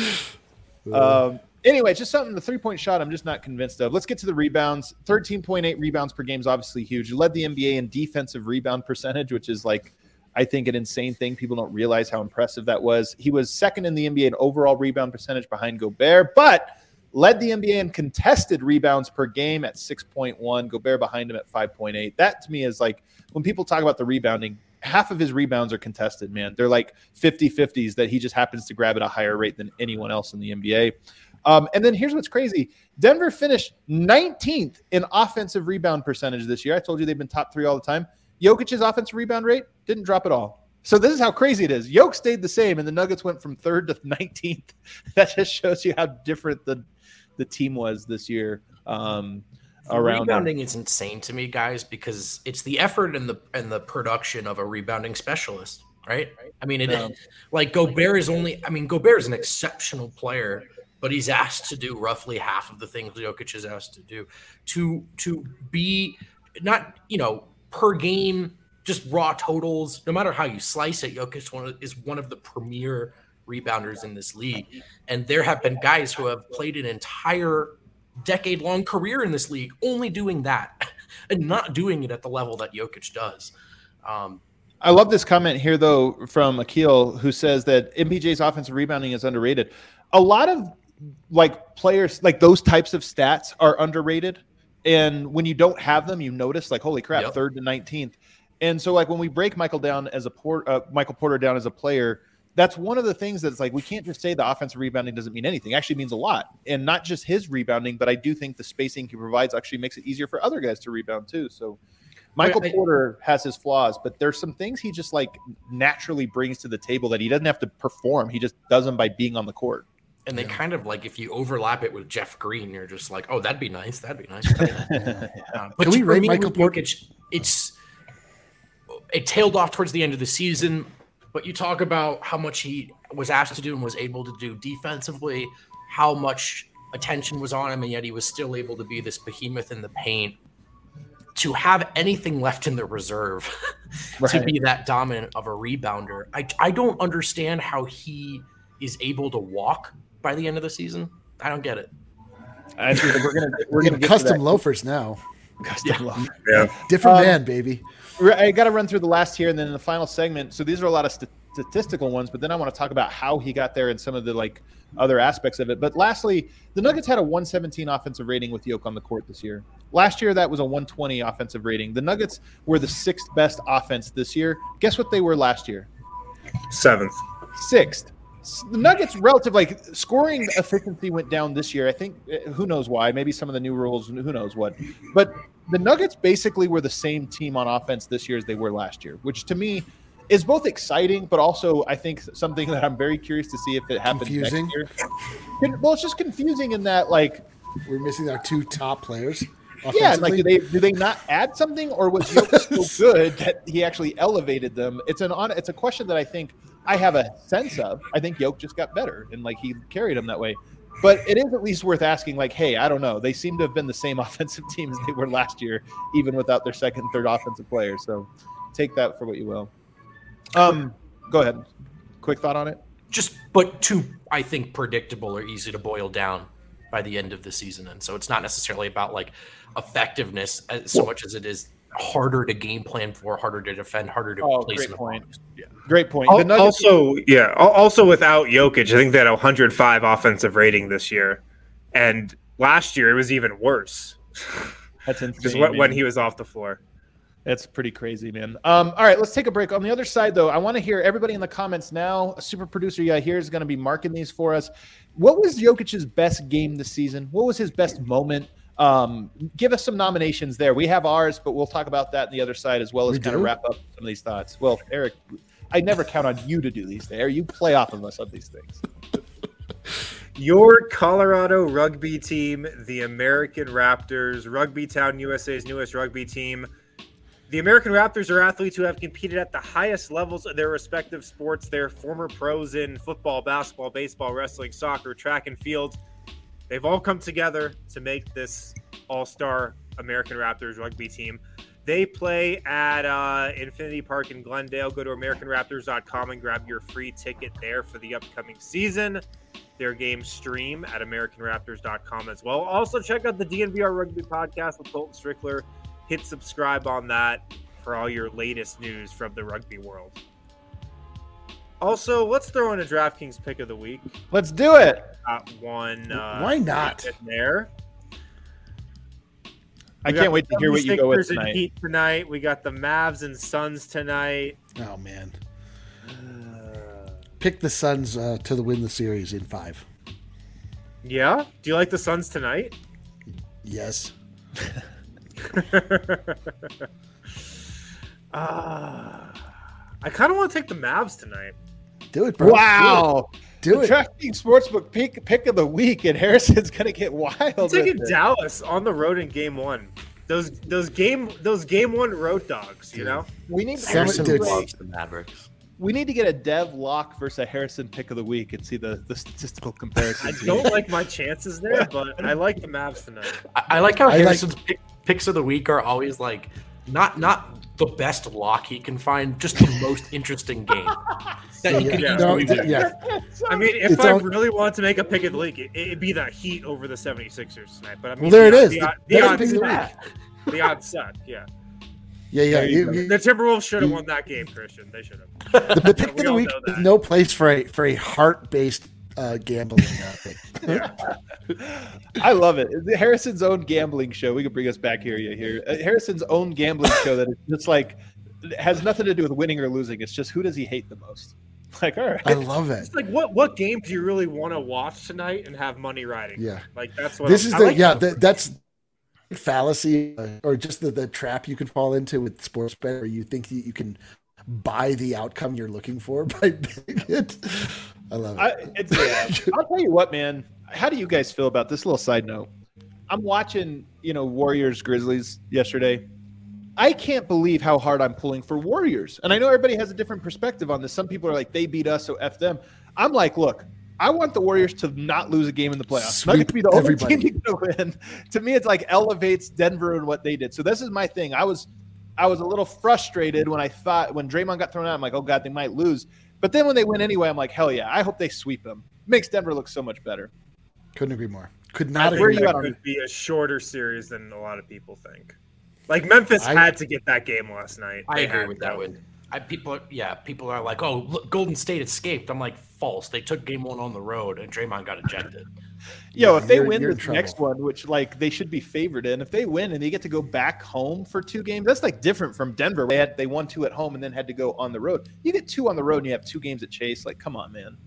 Anyway, just something, the three-point shot I'm just not convinced of. Let's get to the rebounds. 13.8 rebounds per game is obviously huge. He led the NBA in defensive rebound percentage, which is like, I think, an insane thing. People don't realize how impressive that was. He was second in the NBA in overall rebound percentage behind Gobert, but led the NBA in contested rebounds per game at 6.1. Gobert behind him at 5.8. That to me is like, when people talk about the rebounding, half of his rebounds are contested, man. They're like 50-50s that he just happens to grab at a higher rate than anyone else in the NBA. And then here's what's crazy. Denver finished 19th in offensive rebound percentage this year. I told you they've been top 3 all the time. Jokic's offensive rebound rate didn't drop at all. So this is how crazy it is. Jokic stayed the same, and the Nuggets went from 3rd to 19th. That just shows you how different the team was this year. Around rebounding is insane to me, guys, because it's the effort and the production of a rebounding specialist, right? I mean, like Gobert is Gobert is an exceptional player, but he's asked to do roughly half of the things Jokic is asked to do. To be not, per game, just raw totals, no matter how you slice it, Jokic is one of the premier rebounders in this league. And there have been guys who have played an entire decade-long career in this league only doing that and not doing it at the level that Jokic does. I love this comment here, though, from Akil, who says that MPJ's offensive rebounding is underrated. A lot of players, like those types of stats are underrated. And when you don't have them, you notice like, holy crap, 3rd to 19th. And so like when we break Michael Porter down as a player, that's one of the things that's like, we can't just say the offensive rebounding doesn't mean anything. It actually means a lot. And not just his rebounding, but I do think the spacing he provides actually makes it easier for other guys to rebound too. So Michael Porter has his flaws, but there's some things he just like naturally brings to the table that he doesn't have to perform. He just does them by being on the court. And they kind of like, if you overlap it with Jeff Green, you're just like, oh, that'd be nice. That'd be nice. But can we rate Michael Porter? It tailed off towards the end of the season, but you talk about how much he was asked to do and was able to do defensively, how much attention was on him, and yet he was still able to be this behemoth in the paint. To have anything left in the reserve to be that dominant of a rebounder, I don't understand how he is able to walk by the end of the season. I don't get it. I think we're gonna get custom loafers now. Custom loafers. Yeah. Different man, baby. I got to run through the last here, and then in the final segment. So these are a lot of statistical ones, but then I want to talk about how he got there and some of the like other aspects of it. But lastly, the Nuggets had a 117 offensive rating with Jokic on the court this year. Last year, that was a 120 offensive rating. The Nuggets were the 6th best offense this year. Guess what they were last year? 7th. 6th. The Nuggets relative scoring efficiency went down this year. I think who knows why? Maybe some of the new rules, who knows what. But the Nuggets basically were the same team on offense this year as they were last year, which to me is both exciting, but also I think something that I'm very curious to see if it happens next year. Well, it's just confusing in that we're missing our 2 top players. Yeah, do they not add something, or was Jokic so good that he actually elevated them? It's a question that I think I have a sense of. I think Jokic just got better and he carried them that way. But it is at least worth asking, hey, I don't know. They seem to have been the same offensive team as they were last year, even without their second and third offensive players. So take that for what you will. Go ahead. Quick thought on it? But too, I think, predictable or easy to boil down by the end of the season. And so it's not necessarily about effectiveness so much as it is harder to game plan for, harder to defend, harder to place in the point. Yeah. Great point. Also without Jokic, I think they had a 105 offensive rating this year. And last year it was even worse. That's insane. Just when he was off the floor. That's pretty crazy, man. All right, let's take a break. On the other side, though, I want to hear everybody in the comments now. A super producer here is going to be marking these for us. What was Jokic's best game this season? What was his best moment? Give us some nominations there. We have ours, but we'll talk about that on the other side as well as kind of wrap up some of these thoughts. Well, Eric, I never count on you to do these things. You play off of us on these things. Your Colorado rugby team, the American Raptors, Rugby Town USA's newest rugby team. The American Raptors are athletes who have competed at the highest levels of their respective sports. They're former pros in football, basketball, baseball, wrestling, soccer, track, and field. They've all come together to make this all-star American Raptors rugby team. They play at Infinity Park in Glendale. Go to AmericanRaptors.com and grab your free ticket there for the upcoming season. Their games stream at AmericanRaptors.com as well. Also, check out the DNVR Rugby Podcast with Colton Strickler. Hit subscribe on that for all your latest news from the rugby world. Also, let's throw in a DraftKings pick of the week. Let's do it. Got one. Why not? In there. I can't wait to hear what you go with tonight. Heat tonight. We got the Mavs and Suns tonight. Oh, man. Pick the Suns to win the series in 5. Yeah? Do you like the Suns tonight? Yes. I kind of want to take the Mavs tonight. Do it, bro. Wow. Do it. DraftKings Sportsbook pick of the week, and Harrison's going to get wild. I'm taking Dallas on the road in Game 1. Those Game 1 road dogs, you know? We need Harrison loves the Mavericks. We need to get a Dev Lock versus a Harrison pick of the week and see the statistical comparison. I don't like my chances there, but I like the Mavs tonight. I like how Harrison's picks of the week are always like not the best lock he can find, just the most interesting game. That he can easily win. I mean, if I really want to make a pick of the week, it'd be the Heat over the 76ers tonight. But I mean, well, there it is. The odds suck, yeah. Yeah. The Timberwolves should have won that game, Christian. They should have. The pick of the week is no place for a heart-based gambling pick. Yeah. I love it. Harrison's own gambling show. We can bring us back here. Harrison's own gambling show that is just like has nothing to do with winning or losing. It's just who does he hate the most. Like, all right. I love it. It's like what game do you really want to watch tonight and have money riding? Yeah. Like that's what this is that's fallacy or just the trap you could fall into with sports bet where you think you can buy the outcome you're looking for by betting it. I love it. I'll tell you what, man. How do you guys feel about this? Little side note. I'm watching, Warriors Grizzlies yesterday. I can't believe how hard I'm pulling for Warriors. And I know everybody has a different perspective on this. Some people are like, they beat us, so F them. I'm like, look, I want the Warriors to not lose a game in the playoffs. Not to be the only team to win. To me, it's like elevates Denver and what they did. So this is my thing. I was a little frustrated when Draymond got thrown out. I'm like, oh God, they might lose. But then when they win anyway, I'm like, hell yeah, I hope they sweep them. Makes Denver look so much better. Couldn't agree more. Could not agree more. It could be a shorter series than a lot of people think. Like Memphis had to get that game last night. I agree with that one. People are like, oh, look, Golden State escaped. I'm like, false. They took game 1 on the road, and Draymond got ejected. If they win the next one, which they should be favored in, if they win and they get to go back home for 2 games, that's like different from Denver. They won 2 at home and then had to go on the road. You get 2 on the road and you have 2 games at Chase. Like, come on, man.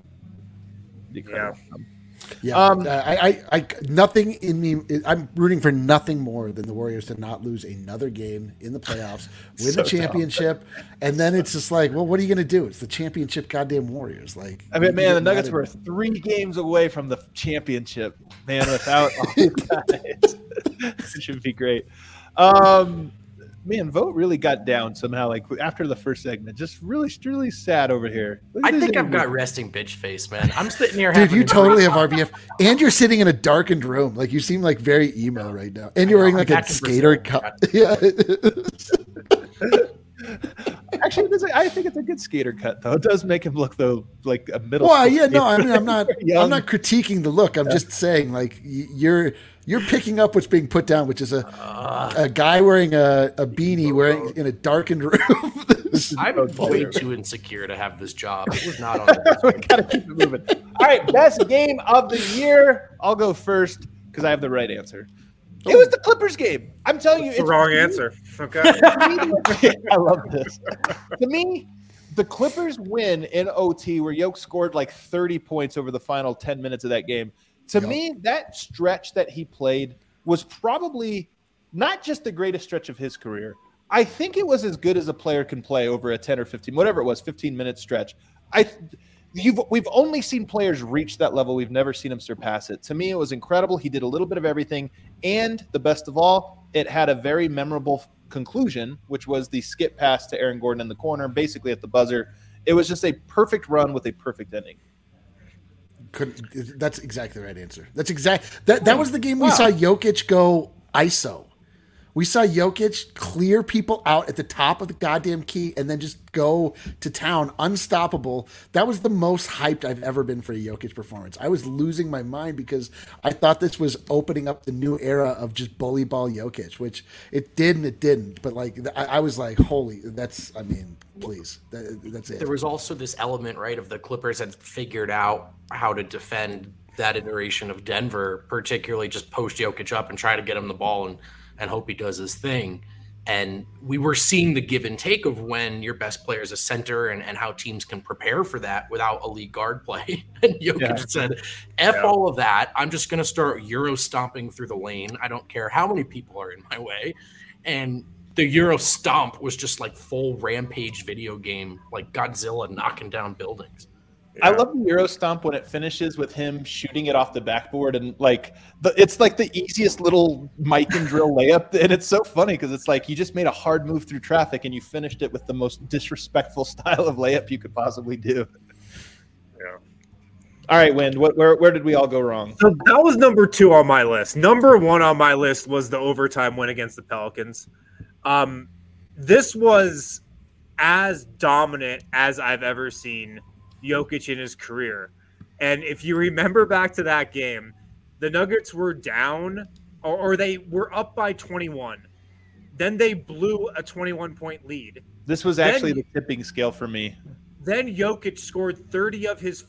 I nothing in me. I'm rooting for nothing more than the Warriors to not lose another game in the playoffs, win the championship, and then it's just like, well, what are you going to do? It's the championship, goddamn Warriors. Like, I mean, man, the Nuggets were 3 games away from the championship, man. Without all guys, it should be great. Man, Vote really got down somehow, like after the first segment. Just really, really sad over here. I think I've got resting bitch face, man. I'm sitting here. Dude, you totally have RBF. And you're sitting in a darkened room. Like, you seem like very emo right now. And you're wearing like a skater cut. Yeah. Actually, I think it's a good skater cut, though. It does make him look, though, like a middle. Well, yeah, no, I mean, I'm not critiquing the look. I'm just saying, like, you're picking up what's being put down, which is a guy wearing a beanie wearing in a darkened room. I'm way too insecure to have this job. It was not on the We gotta keep it moving. All right, best game of the year. I'll go first because I have the right answer. It was the Clippers game. I'm telling you, it's the wrong answer. Okay. I love this. To me, the Clippers win in OT where Yoke scored like 30 points over the final 10 minutes of that game. To me, that stretch that he played was probably not just the greatest stretch of his career. I think it was as good as a player can play over a 10 or 15, whatever it was, 15-minute stretch. We've only seen players reach that level. We've never seen him surpass it. To me, it was incredible. He did a little bit of everything. And the best of all, it had a very memorable conclusion, which was the skip pass to Aaron Gordon in the corner, basically at the buzzer. It was just a perfect run with a perfect ending. That's exactly the right answer. That was the game we saw Jokic go ISO. We saw Jokic clear people out at the top of the goddamn key and then just go to town, unstoppable. That was the most hyped I've ever been for a Jokic performance. I was losing my mind because I thought this was opening up the new era of just bully ball Jokic, which it did and it didn't. But like, I was like, holy, please, that's it. There was also this element, right, of the Clippers had figured out how to defend that iteration of Denver, particularly just post Jokic up and try to get him the ball and hope he does his thing. And we were seeing the give and take of when your best player is a center and how teams can prepare for that without elite guard play. And Jokic said, all of that. I'm just going to start Euro stomping through the lane. I don't care how many people are in my way. And the Euro stomp was just like full rampage video game, like Godzilla knocking down buildings. Yeah. I love the Euro stomp when it finishes with him shooting it off the backboard and like it's like the easiest little mic and drill layup, and it's so funny because it's like you just made a hard move through traffic and you finished it with the most disrespectful style of layup you could possibly do. Yeah. All right, Wind. Where did we all go wrong? So that was number 2 on my list. Number 1 on my list was the overtime win against the Pelicans. This was as dominant as I've ever seen Jokic in his career. And if you remember back to that game, the Nuggets were down or they were up by 21. Then they blew a 21-point lead. This was actually the tipping scale for me. Then Jokic scored 30 of his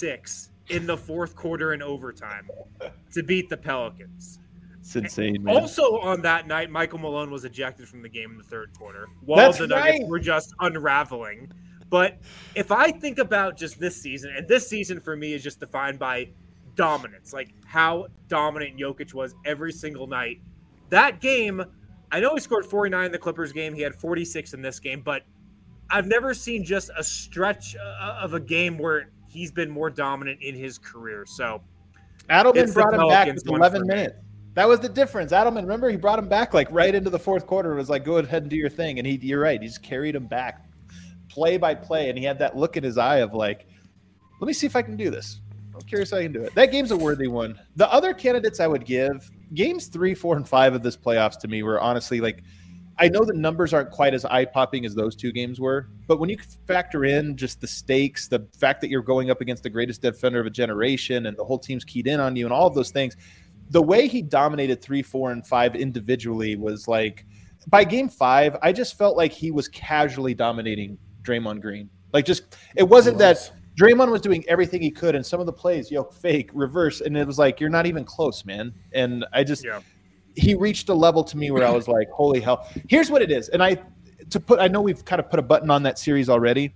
46 in the fourth quarter in overtime to beat the Pelicans. It's insane, man. Also on that night, Michael Malone was ejected from the game in the third quarter while the Nuggets were just unraveling. But if I think about just this season, and this season for me is just defined by dominance, like how dominant Jokic was every single night. That game, I know he scored 49 in the Clippers game. He had 46 in this game, but I've never seen just a stretch of a game where he's been more dominant in his career. So Adelman brought him back with 11 minutes. That was the difference. Adelman, remember, he brought him back like right into the fourth quarter. It was like, go ahead and do your thing. And you're right. He just carried him back play by play. And he had that look in his eye of like, let me see if I can do this. I'm curious how I can do it. That game's a worthy one. The other candidates I would give, games 3, 4, and 5 of this playoffs to me were honestly like, I know the numbers aren't quite as eye-popping as those two games were, but when you factor in just the stakes, the fact that you're going up against the greatest defender of a generation and the whole team's keyed in on you and all of those things, the way he dominated 3, 4, and 5 individually was like, by game 5, I just felt like he was casually dominating Draymond Green. Like just, it wasn't that Draymond was doing everything he could and some of the plays, fake, reverse, and it was like, you're not even close, man. And I just... Yeah. He reached a level to me where I was like, holy hell. Here's what it is. And I know we've kind of put a button on that series already.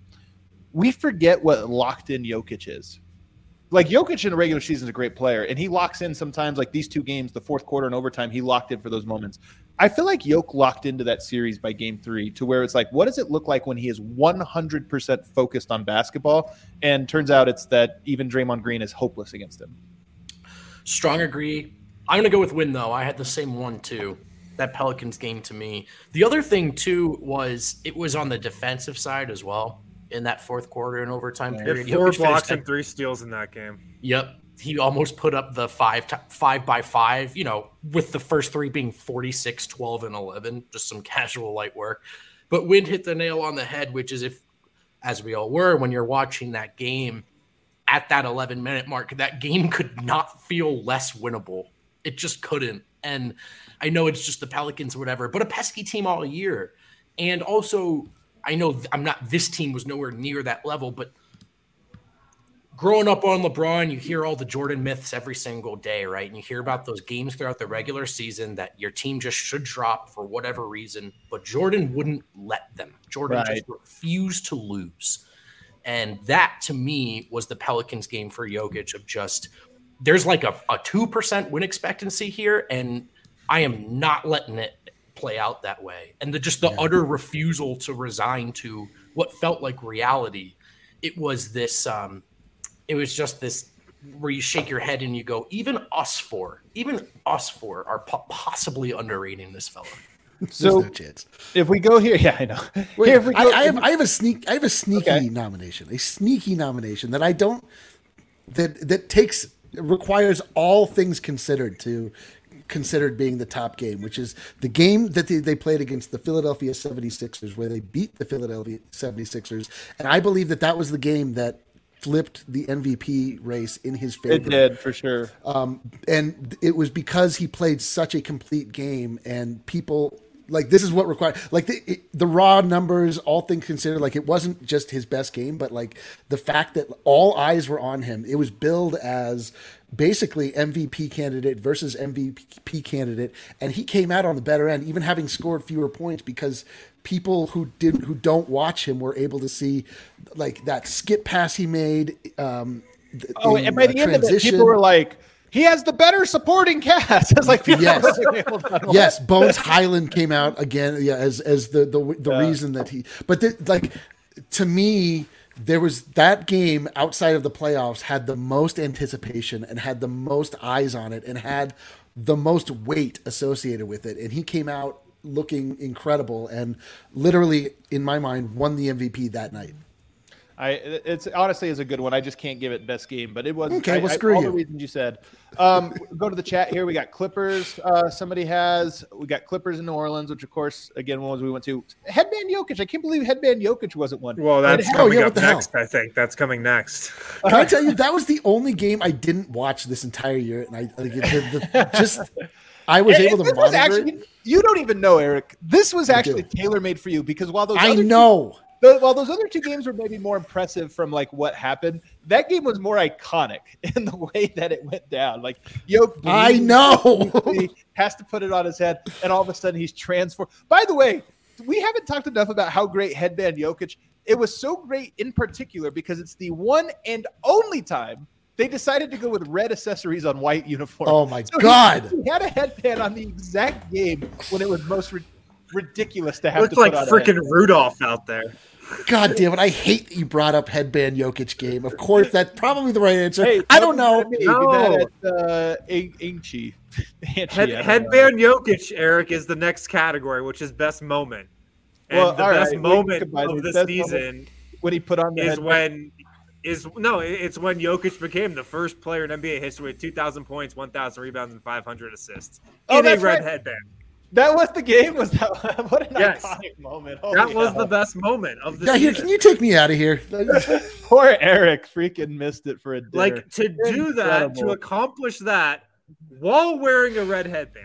We forget what locked in Jokic is. Like Jokic in the regular season is a great player, and he locks in sometimes like these two games, the fourth quarter and overtime, he locked in for those moments. I feel like Jokic locked into that series by game 3 to where it's like, what does it look like when he is 100% focused on basketball? And turns out it's that even Draymond Green is hopeless against him. Strong agree. I'm going to go with win, though. I had the same one, too. That Pelicans game to me. The other thing, too, was it was on the defensive side as well in that fourth quarter and overtime period. He had 4 blocks and 3 steals in that game. Yep. He almost put up the 5 by 5, with the first 3 being 46, 12, and 11. Just some casual light work. But Wind hit the nail on the head, which is as we all were, when you're watching that game at that 11-minute mark, that game could not feel less winnable. It just couldn't. And I know it's just the Pelicans or whatever, but a pesky team all year. And also, I know this team was nowhere near that level, but growing up on LeBron, you hear all the Jordan myths every single day, right? And you hear about those games throughout the regular season that your team just should drop for whatever reason, but Jordan wouldn't let them. Jordan just refused to lose. And that, to me, was the Pelicans game for Jokic of just – there's like a 2% win expectancy here, and I am not letting it play out that way. And the utter refusal to resign to what felt like reality. It was this, it was just this where you shake your head and you go, even us four are possibly underrating this fella. So no chance. If we go here, yeah, I know. Wait, Here, if we go, I have a sneaky nomination, that I don't that requires all things considered being the top game, which is the game that they played against the Philadelphia 76ers, where they beat the Philadelphia 76ers, and I believe that was the game that flipped the MVP race in his favor. It did, for sure. And it was because he played such a complete game, and people like this is what required, like the raw numbers, all things considered, like it wasn't just his best game, but like the fact that all eyes were on him. It was billed as basically MVP candidate versus MVP candidate, and he came out on the better end, even having scored fewer points, because people who don't watch him were able to see like that skip pass he made. And by the end of it, people were like, he has the better supporting cast. It's like, yes, Bones Highland came out again, as the reason that he. But to me, there was that game outside of the playoffs had the most anticipation and had the most eyes on it and had the most weight associated with it, and he came out looking incredible and literally, in my mind, won the MVP that night. It's honestly is a good one. I just can't give it best game, but it was okay. Well, screw all you. The reasons you said. Go to the chat here. We got Clippers. We got Clippers in New Orleans, which of course, again, one was we went to. Headband Jokic. I can't believe Headband Jokic wasn't one. Well, that's coming up next. I think that's coming next. Can I tell you that was the only game I didn't watch this entire year, and I was able to monitor it. You don't even know, Eric. This was actually tailor-made for you because while those while those other two games were maybe more impressive from like what happened, that game was more iconic in the way that it went down. Like Jokic, I know, has to put it on his head, and all of a sudden he's transformed. By the way, we haven't talked enough about how great Headband Jokic. It was so great in particular because it's the one and only time they decided to go with red accessories on white uniforms. Oh my God! He had a headband on the exact game when it was most ridiculous to have. Looked like freaking Rudolph out there. God damn it! I hate that you brought up Headband Jokic game. Of course, that's probably the right answer. Hey, I don't know. Headband Jokic, Eric, is the next category, which is best moment. And the best moment of the season when he put on the it's when Jokic became the first player in NBA history with 2,000 points, 1,000 rebounds, and 500 assists in a red headband. That was the game? Was that what an iconic moment? That was the best moment of the season. Can you take me out of here? Poor Eric freaking missed it for a dinner. Like to do that, to accomplish that while wearing a red headband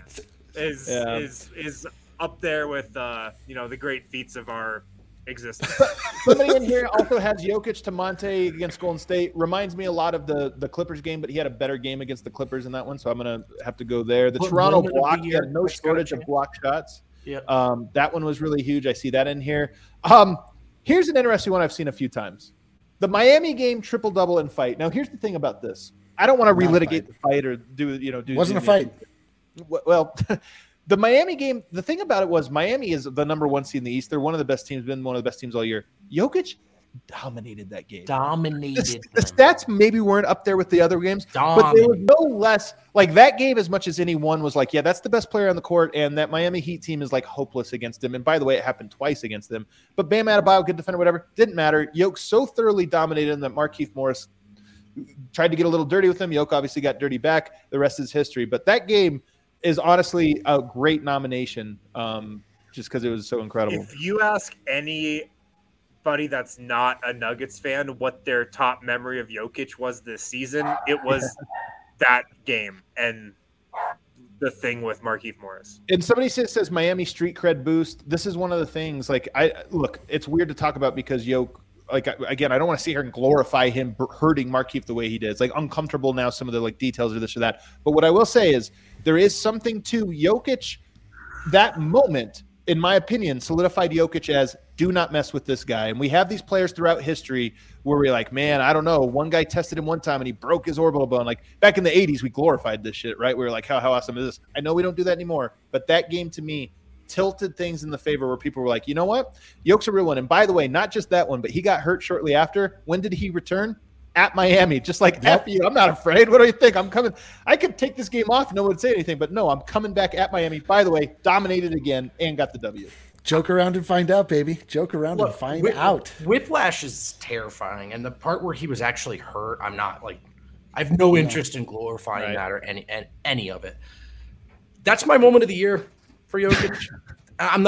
is up there with the great feats of our existence. Somebody in here also has Jokic to Monte against Golden State. Reminds me a lot of the Clippers game, but he had a better game against the Clippers in that one, so I'm going to have to go there. The Toronto block, he had no shortage of block shots. Yeah. That one was really huge. I see that in here. Here's an interesting one I've seen a few times. The Miami game, triple-double and fight. Now, here's the thing about this. I don't want to relitigate the fight or do. Wasn't a fight. Well, the Miami game, the thing about it was Miami is the number one seed in the East. They're one of the best teams, been one of the best teams all year. Jokic dominated that game. Dominated. The stats maybe weren't up there with the other games, but they were no less like that game as much as any one was like, yeah, that's the best player on the court, and that Miami Heat team is like hopeless against him. And by the way, it happened twice against them. But Bam Adebayo, good defender, whatever, didn't matter. Jokic so thoroughly dominated him that Markieff Morris tried to get a little dirty with him. Jokic obviously got dirty back. The rest is history. But that game is honestly a great nomination just because it was so incredible. If you ask anybody that's not a Nuggets fan what their top memory of Jokic was this season, it was that game and the thing with Markieff Morris. And somebody says Miami street cred boost. This is one of the things, like, it's weird to talk about because Jokic, like, again, I don't want to sit here and glorify him hurting Markieff the way he did. It's like uncomfortable now, some of the like details or this or that. But what I will say is there is something to Jokic. That moment, in my opinion, solidified Jokic as do not mess with this guy. And we have these players throughout history where we're like, man, I don't know. One guy tested him one time and he broke his orbital bone. Like back in the 80s, we glorified this shit, right? We were like, how awesome is this? I know we don't do that anymore. But that game to me tilted things in the favor where people were like, you know what? Yoke's a real one. And by the way, not just that one, but he got hurt shortly after. When did he return? At Miami. Just like, F you, I'm not afraid. What do you think? I'm coming. I could take this game off. No one would say anything, but no, I'm coming back at Miami. By the way, dominated again and got the W. Joke around and find out, baby. Joke around and find out. Whiplash is terrifying. And the part where he was actually hurt, I'm not like, I have no interest in glorifying that or any of it. That's my moment of the year for Jokic. I'm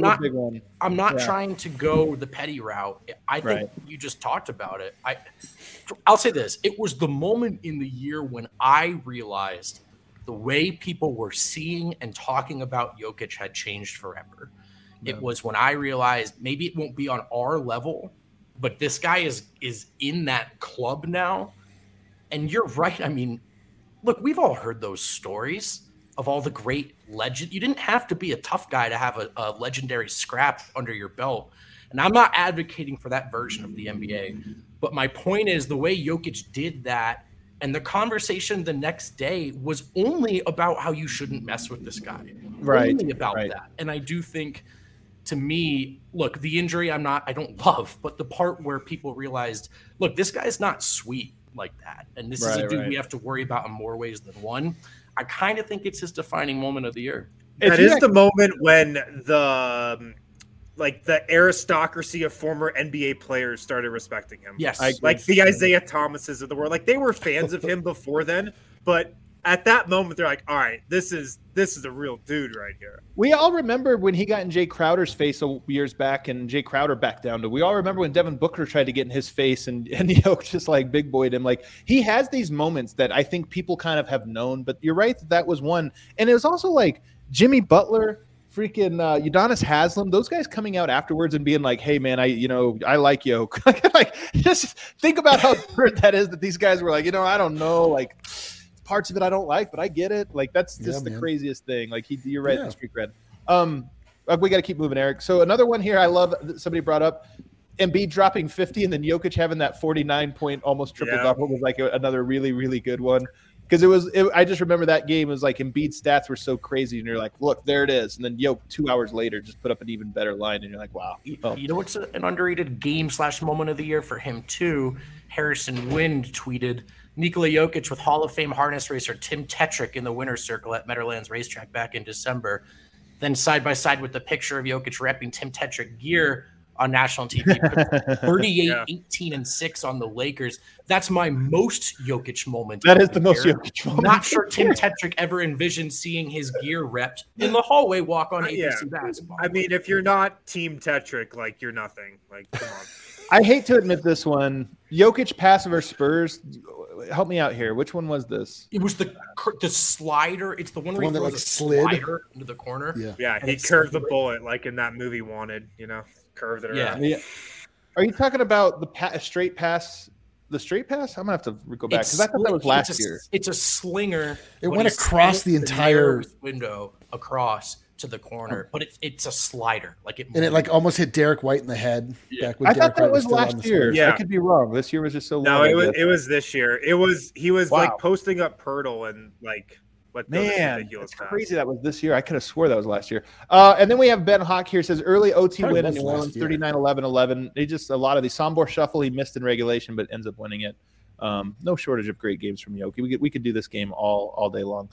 not trying to go the petty route. I think you just talked about it. I'll say this. It was the moment in the year when I realized the way people were seeing and talking about Jokic had changed forever. Yeah. It was when I realized maybe it won't be on our level, but this guy is in that club now. And you're right. I mean, look, we've all heard those stories of all the great legend. You didn't have to be a tough guy to have a legendary scrap under your belt. And I'm not advocating for that version of the NBA. But my point is the way Jokic did that and the conversation the next day was only about how you shouldn't mess with this guy. Right. Only about that. And I do think, to me, look, the injury I don't love, but the part where people realized, look, this guy's not sweet like that. And this is a dude we have to worry about in more ways than one. I kind of think it's his defining moment of the year. That is the moment when the aristocracy of former NBA players started respecting him. Yes. Like the Isaiah Thomases of the world. Like they were fans of him before then, but at that moment they're like, all right, this is a real dude right here. We all remember when he got in Jay Crowder's face years back and Jay Crowder backed down to. We all remember when Devin Booker tried to get in his face and Yoke just like big boyed him. Like he has these moments that I think people kind of have known, but you're right that was one. And it was also like Jimmy Butler, freaking Udonis Haslem, those guys coming out afterwards and being like, hey man, I like Yoke. Like just think about how absurd that is that these guys were like, I don't know, like parts of it I don't like, but I get it. Like that's just the craziest thing. Like you're right, the street cred. We got to keep moving, Eric. So another one here I love that somebody brought up, Embiid dropping 50 and then Jokic having that 49-point almost triple double was like another really, really good one. Because I just remember that game was like Embiid's stats were so crazy, and you're like, look, there it is. And then Jokic 2 hours later just put up an even better line, and you're like, wow. You know what's an underrated game/moment of the year for him too? Harrison Wind tweeted Nikola Jokic with Hall of Fame harness racer Tim Tetrick in the winner's circle at Meadowlands Racetrack back in December. Then side by side with the picture of Jokic repping Tim Tetrick gear on national TV, 38, 18, and 6 on the Lakers. That's my most Jokic moment. That is the most Jokic moment. Not sure Tim Tetrick ever envisioned seeing his gear repped in the hallway walk on ABC basketball. I mean, if you're not Team Tetrick, like you're nothing. Like, come on. I hate to admit this one. Jokic pass versus Spurs. Help me out here. Which one was this? It was the slider. It's the one where he throws a slider into the corner. Yeah, he curved the bullet like in that movie Wanted, curved it around. Yeah. Are you talking about the straight pass? The straight pass? I'm gonna have to go back because I thought that was last year. It's a slinger. It went across the entire window across to the corner, but it's a slider. It like almost hit Derek White in the head. Yeah. I thought that was last year. Yeah, I could be wrong. This year was just so long. No, it was this year. He was like posting up Pirtle and like. Man, it's crazy that was this year. I could have swore that was last year. And then we have Ben Hawk here says early OT win in New Orleans, 39-11-11. They just a lot of the Sombor shuffle he missed in regulation, but ends up winning it. No shortage of great games from Yoki. We could do this game all day long.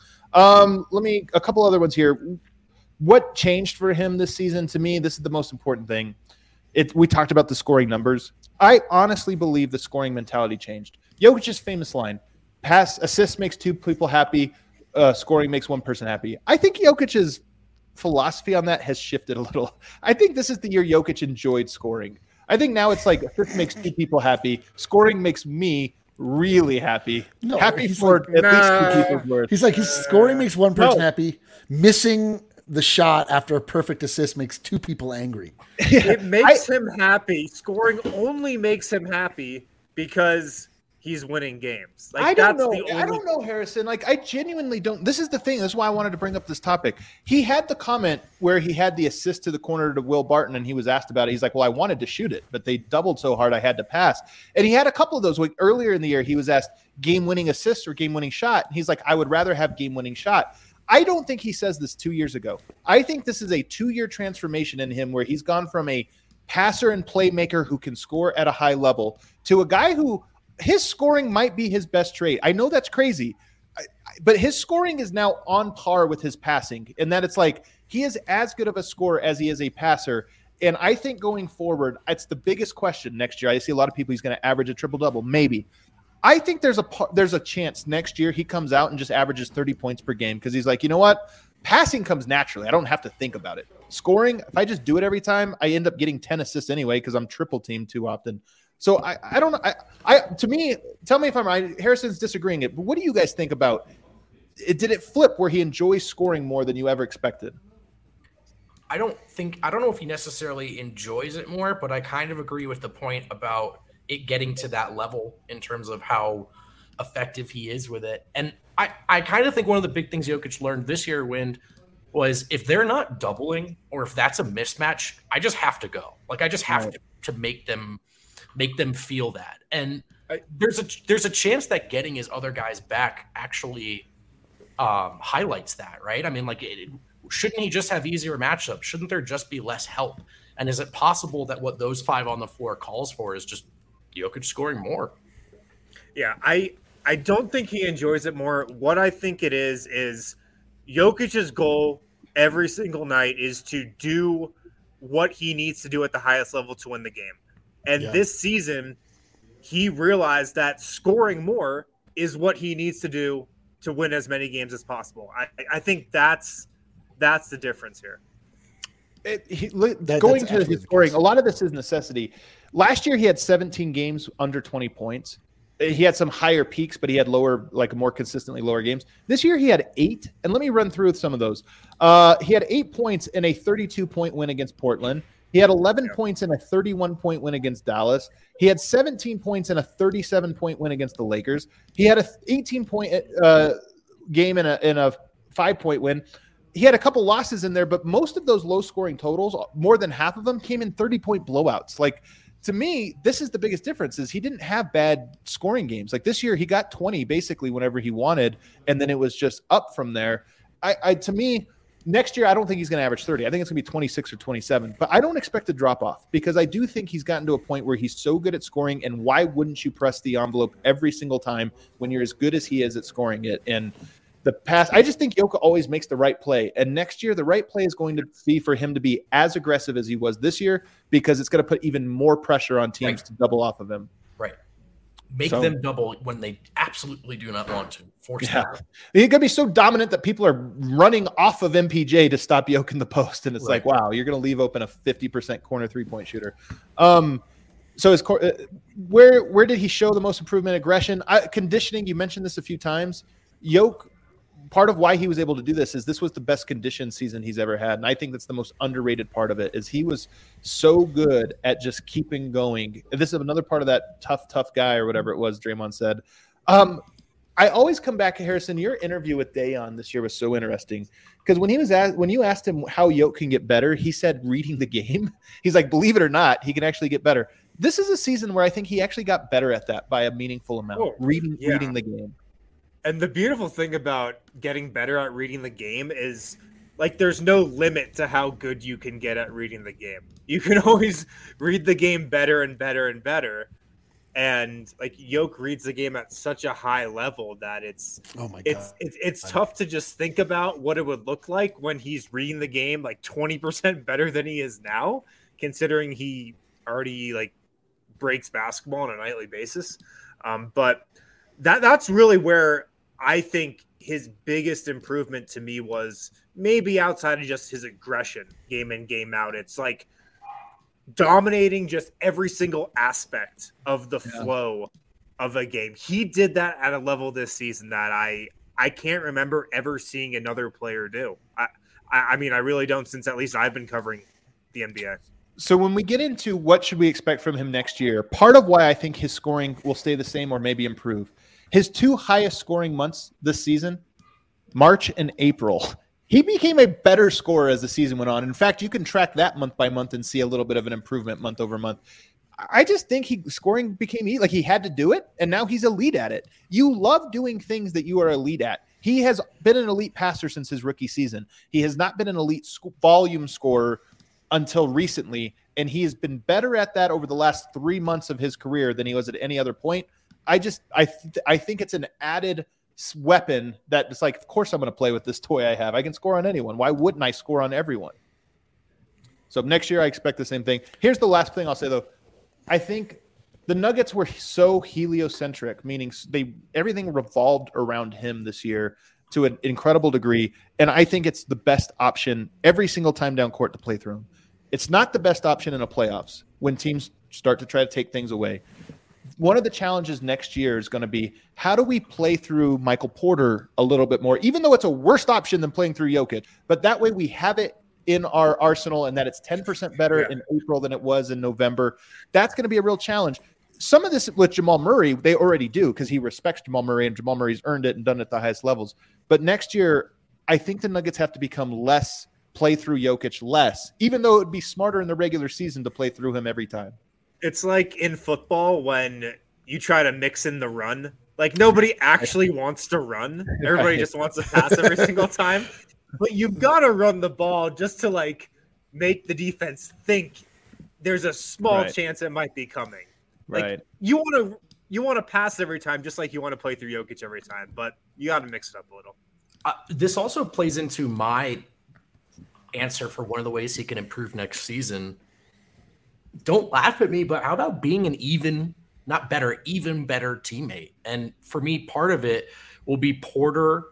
A couple other ones here. What changed for him this season? To me, this is the most important thing. We talked about the scoring numbers. I honestly believe the scoring mentality changed. Jokic's famous line: assist makes 2 people happy. Scoring makes 1 person happy. I think Jokic's philosophy on that has shifted a little. I think this is the year Jokic enjoyed scoring. I think now it's like assist makes 2 people happy. Scoring makes me really happy. Happy for at least 2 people's worth. He's like, scoring makes 1 person happy. Missing the shot after a perfect assist makes 2 people angry. It makes him happy. Scoring only makes him happy because he's winning games. Like, I don't know, Harrison. Like, I genuinely don't. This is the thing. This is why I wanted to bring up this topic. He had the comment where he had the assist to the corner to Will Barton, and he was asked about it. He's like, well, I wanted to shoot it, but they doubled so hard I had to pass. And he had a couple of those. Like, earlier in the year, he was asked game-winning assist or game-winning shot. And he's like, I would rather have game-winning shot. I don't think he says this 2 years ago. I think this is a 2-year transformation in him where he's gone from a passer and playmaker who can score at a high level to a guy who his scoring might be his best trait. I know that's crazy, but his scoring is now on par with his passing, and that it's like he is as good of a scorer as he is a passer. And I think going forward, it's the biggest question next year. I see a lot of people he's going to average a triple-double, maybe. I think there's a chance next year he comes out and just averages 30 points per game because he's like, you know what? Passing comes naturally. I don't have to think about it. Scoring, if I just do it every time, I end up getting 10 assists anyway because I'm triple teamed too often. So I don't know. To me, tell me if I'm right. Harrison's disagreeing it, but what do you guys think about it? Did it flip where he enjoys scoring more than you ever expected? I don't know if he necessarily enjoys it more, but I kind of agree with the point about it getting to that level in terms of how effective he is with it. And I kind of think one of the big things Jokic learned this year was if they're not doubling or if that's a mismatch, I just have to go. Like I just have to make them feel that. And there's a chance that getting his other guys back actually highlights that, right? I mean, like shouldn't he just have easier matchups? Shouldn't there just be less help? And is it possible that what those 5 on the floor calls for is just Jokic scoring more? Yeah, I don't think he enjoys it more. What I think it is Jokic's goal every single night is to do what he needs to do at the highest level to win the game. And this season, he realized that scoring more is what he needs to do to win as many games as possible. I think that's the difference here. Going to his scoring, a lot of this is necessity. Last year, he had 17 games under 20 points. He had some higher peaks, but he had more consistently lower games. This year, he had 8. And let me run through some of those. He had 8 points in a 32-point win against Portland. He had 11 points in a 31-point win against Dallas. He had 17 points in a 37-point win against the Lakers. He had a 18-point game in a 5-point win. He had a couple losses in there, but most of those low-scoring totals, more than half of them, came in 30-point blowouts. Like, to me, this is the biggest difference is he didn't have bad scoring games. Like this year, he got 20 basically whenever he wanted, and then it was just up from there. To me, next year, I don't think he's going to average 30. I think it's going to be 26 or 27, but I don't expect to drop off because I do think he's gotten to a point where he's so good at scoring, and why wouldn't you press the envelope every single time when you're as good as he is at scoring it? And the pass, I just think Jokic always makes the right play. And next year, the right play is going to be for him to be as aggressive as he was this year because it's going to put even more pressure on teams to double off of him. Right. Make them double when they absolutely do not want to. Force them. He's going to be so dominant that people are running off of MPJ to stop Jokic in the post. And it's like, wow, you're going to leave open a 50% corner 3-point shooter. So his where did he show the most improvement? Aggression, conditioning. You mentioned this a few times. Jokic, part of why he was able to do this is this was the best conditioned season he's ever had. And I think that's the most underrated part of it is he was so good at just keeping going. This is another part of that tough guy or whatever it was Draymond said. I always come back to Harrison. Your interview with Dayon this year was so interesting because when you asked him how Jokic can get better, he said reading the game. He's like, believe it or not, he can actually get better. This is a season where I think he actually got better at that by a meaningful amount, reading the game. And the beautiful thing about getting better at reading the game is like there's no limit to how good you can get at reading the game. You can always read the game better and better and better. And like Jokic reads the game at such a high level that it's tough to just think about what it would look like when he's reading the game like 20% better than he is now, considering he already like breaks basketball on a nightly basis. But that's really where I think his biggest improvement to me was maybe outside of just his aggression game in, game out. It's like dominating just every single aspect of the flow of a game. He did that at a level this season that I can't remember ever seeing another player do. I mean, I really don't, since at least I've been covering the NBA. So when we get into what should we expect from him next year, part of why I think his scoring will stay the same or maybe improve. His 2 highest scoring months this season, March and April, he became a better scorer as the season went on. In fact, you can track that month by month and see a little bit of an improvement month over month. I just think scoring became like he had to do it, and now he's elite at it. You love doing things that you are elite at. He has been an elite passer since his rookie season. He has not been an elite volume scorer until recently, and he has been better at that over the last 3 months of his career than he was at any other point. I think it's an added weapon that it's like, of course I'm going to play with this toy I have. I can score on anyone. Why wouldn't I score on everyone? So next year I expect the same thing. Here's the last thing I'll say though. I think the Nuggets were so heliocentric, meaning everything revolved around him this year to an incredible degree. And I think it's the best option every single time down court to play through him. It's not the best option in the playoffs when teams start to try to take things away. One of the challenges next year is going to be, how do we play through Michael Porter a little bit more, even though it's a worse option than playing through Jokic, but that way we have it in our arsenal and that it's 10% better in April than it was in November. That's going to be a real challenge. Some of this with Jamal Murray, they already do because he respects Jamal Murray and Jamal Murray's earned it and done it at the highest levels. But next year, I think the Nuggets have to become less play through Jokic less, even though it would be smarter in the regular season to play through him every time. It's like in football when you try to mix in the run. Like nobody actually wants to run. Everybody just wants to pass every single time. But you've got to run the ball just to like make the defense think there's a small chance it might be coming. Like you want to pass every time, just like you want to play through Jokic every time, but you got to mix it up a little. This also plays into my answer for one of the ways he can improve next season. Don't laugh at me, but how about being an even better teammate? And for me, part of it will be Porter.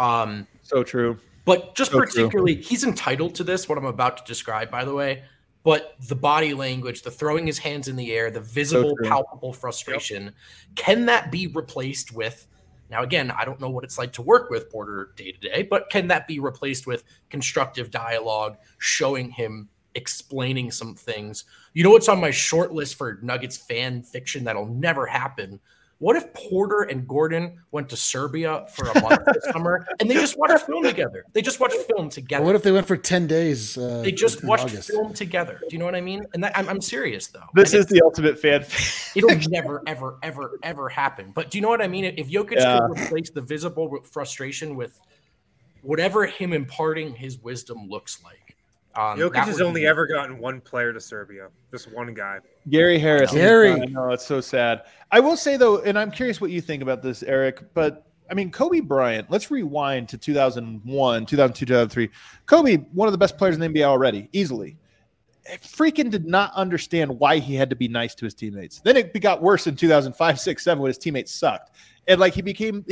So true. But just so particularly, he's entitled to this, what I'm about to describe, by the way. But the body language, the throwing his hands in the air, the visible, palpable frustration, can that be replaced with, now again, I don't know what it's like to work with Porter day to day, but can that be replaced with constructive dialogue, showing him, explaining some things? You know what's on my short list for Nuggets fan fiction that'll never happen? What if Porter and Gordon went to Serbia for a month this summer and they just watched film together? They just watched film together. Or what if they went for 10 days? They just watched film together. Do you know what I mean? And I'm serious, though. This is the ultimate fan. It'll never, ever, ever, ever happen. But do you know what I mean? If Jokic could replace the visible frustration with whatever him imparting his wisdom looks like. Jokic has only ever gotten one player to Serbia. Just one guy. Gary Harris. Gary. I know, it's so sad. I will say, though, and I'm curious what you think about this, Eric, but, I mean, Kobe Bryant, let's rewind to 2001, 2002, 2003. Kobe, one of the best players in the NBA already, easily. Freaking did not understand why he had to be nice to his teammates. Then it got worse in 2005, 6, 7 when his teammates sucked. And, like,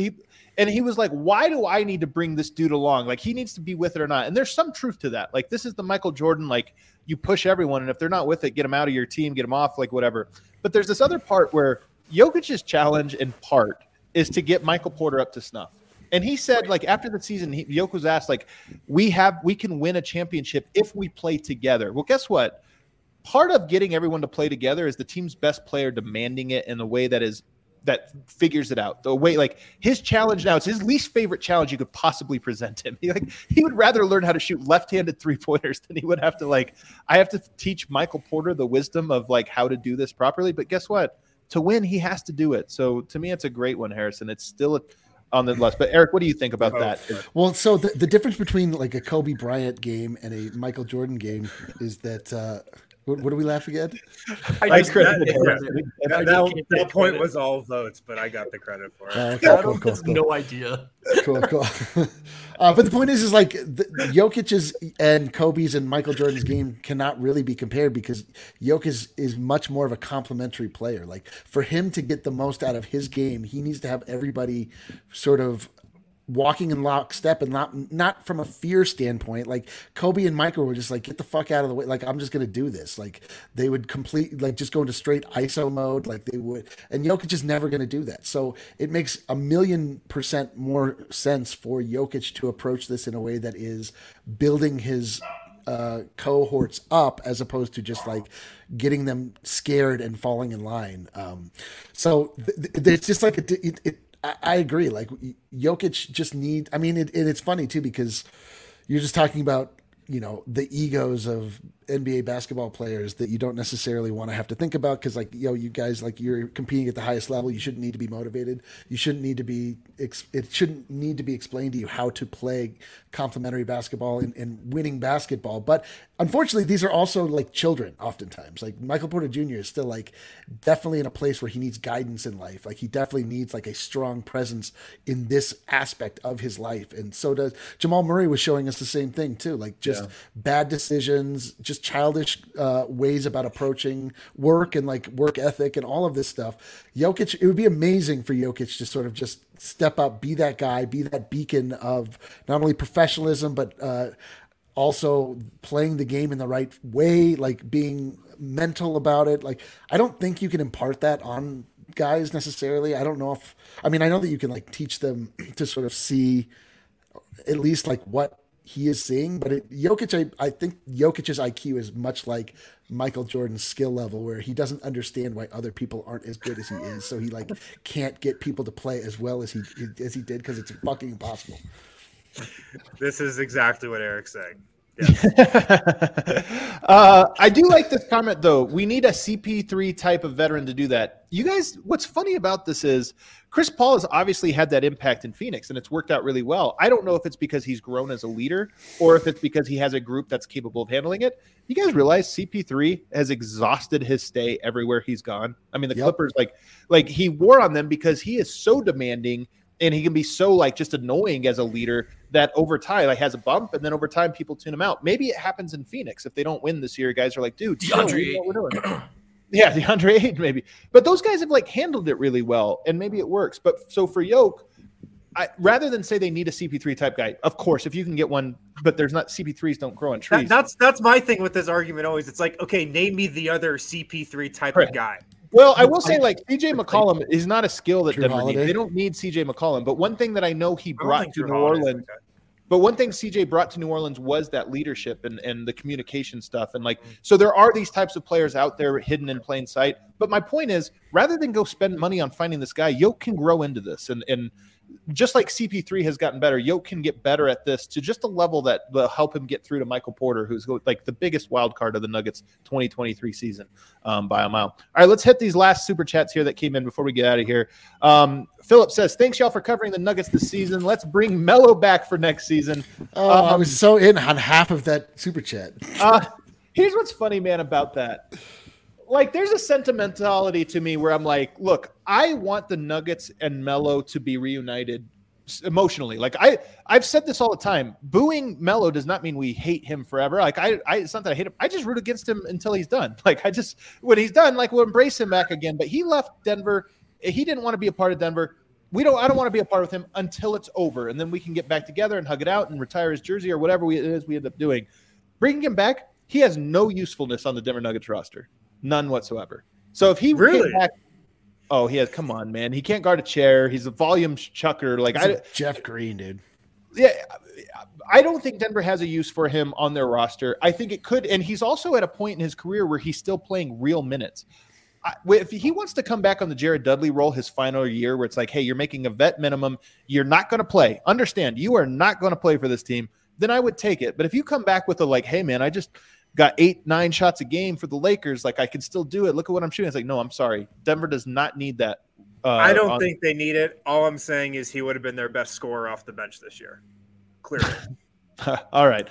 he was like, why do I need to bring this dude along? Like, he needs to be with it or not. And there's some truth to that. Like, this is the Michael Jordan, like, you push everyone, and if they're not with it, get them out of your team, get them off, like, whatever. But there's this other part where Jokic's challenge in part is to get Michael Porter up to snuff. And he said, like, after the season, Jokic was asked, like, we can win a championship if we play together. Well, guess what? Part of getting everyone to play together is the team's best player demanding it in a way that figures it out. The way, like, his challenge now, it's his least favorite challenge you could possibly present him. He would rather learn how to shoot left-handed three-pointers than he would have to, like, I have to teach Michael Porter the wisdom of, like, how to do this properly. But guess what? To win, he has to do it. So to me, it's a great one, Harrison. It's still on the list. But Eric, what do you think about that? Well, so the difference between like a Kobe Bryant game and a Michael Jordan game is that what do we laugh at? That point was all votes, but I got the credit for it. Cool. No idea. Cool. But the point is like Jokic's and Kobe's and Michael Jordan's game cannot really be compared because Jokic is much more of a complementary player. Like for him to get the most out of his game, he needs to have everybody sort of walking in lockstep and not from a fear standpoint. Like Kobe and Michael were just like, get the fuck out of the way. Like, I'm just going to do this. Like they would just go into straight ISO mode. Like they would, and Jokic is never going to do that. So it makes 1,000,000% more sense for Jokic to approach this in a way that is building his cohorts up as opposed to just like getting them scared and falling in line. So it's just like I agree. Like Jokic just it's funny too, because you're just talking about, the egos of NBA basketball players that you don't necessarily want to have to think about because, like, you guys, like, you're competing at the highest level. You shouldn't need to be motivated. You shouldn't need to be. It shouldn't need to be explained to you how to play complementary basketball and winning basketball. But unfortunately, these are also like children. Oftentimes, like Michael Porter Jr. is still like definitely in a place where he needs guidance in life. Like he definitely needs like a strong presence in this aspect of his life, and so does Jamal Murray. Was showing us the same thing too. Like just bad decisions, just childish ways about approaching work and like work ethic and all of this stuff. Jokic, it would be amazing for Jokic to sort of just step up, be that guy, be that beacon of not only professionalism, but also playing the game in the right way, like being mental about it. Like, I don't think you can impart that on guys necessarily. I don't know if, I mean, I know that you can like teach them to sort of see at least like what he is seeing, but Jokic, I think Jokic's IQ is much like Michael Jordan's skill level, where he doesn't understand why other people aren't as good as he is. So he like can't get people to play as well as he did because it's fucking impossible. This is exactly what Eric's saying. I do like this comment though. We need a CP3 type of veteran to do that. You guys, what's funny about this is Chris Paul has obviously had that impact in Phoenix and it's worked out really well. I don't know if it's because he's grown as a leader or if it's because he has a group that's capable of handling it. You guys realize CP3 has exhausted his stay everywhere he's gone. I mean, the Clippers, like he wore on them because he is so demanding and he can be so like just annoying as a leader that over time like has a bump, and then over time people tune him out. Maybe it happens in Phoenix if they don't win this year. Guys are like, dude, DeAndre, what we're doing. Yeah, DeAndre Ayton maybe, but those guys have like handled it really well, and maybe it works. But so for Yoke, rather than say they need a CP3 type guy, of course, if you can get one, but there's not CP3s don't grow on trees. That's my thing with this argument always. It's like, okay, name me the other CP3 type of guy. Well, I will say, like, CJ McCollum is not a skill that Drew Denver Holiday. needs. They don't need CJ McCollum. But one thing that I know he brought to Drew New Holiday's Orleans, but one thing CJ brought to New Orleans was that leadership and the communication stuff. And like, so there are these types of players out there hidden in plain sight. But my point is, rather than go spend money on finding this guy, Yoke can grow into this. And just like CP3 has gotten better, Yoke can get better at this to just a level that will help him get through to Michael Porter, who's like the biggest wild card of the Nuggets 2023 season by a mile. All right, let's hit these last super chats here that came in before we get out of here. Philip says, thanks y'all for covering the Nuggets this season. Let's bring Melo back for next season. I was so in on half of that super chat. Here's what's funny, man, about that. Like, there's a sentimentality to me where I'm like, look, I want the Nuggets and Melo to be reunited emotionally. Like, I've said this all the time. Booing Melo does not mean we hate him forever. Like, it's not that I hate him. I just root against him until he's done. Like, when he's done, like, we'll embrace him back again. But he left Denver. He didn't want to be a part of Denver. I don't want to be a part of him until it's over. And then we can get back together and hug it out and retire his jersey or whatever it is we end up doing. Bringing him back, he has no usefulness on the Denver Nuggets roster. None whatsoever. So if he really came back, he has. Come on, man. He can't guard a chair. He's a volume chucker. Like Jeff Green, dude. Yeah, I don't think Denver has a use for him on their roster. I think it could, and he's also at a point in his career where he's still playing real minutes. If he wants to come back on the Jared Dudley role his final year, where it's like, hey, you're making a vet minimum, you're not going to play. Understand, you are not going to play for this team. Then I would take it. But if you come back with a like, hey, man, I just got 8-9 shots a game for the Lakers. Like, I can still do it. Look at what I'm shooting. It's like, no, I'm sorry. Denver does not need that. I don't think they need it. All I'm saying is he would have been their best scorer off the bench this year. Clearly. All right.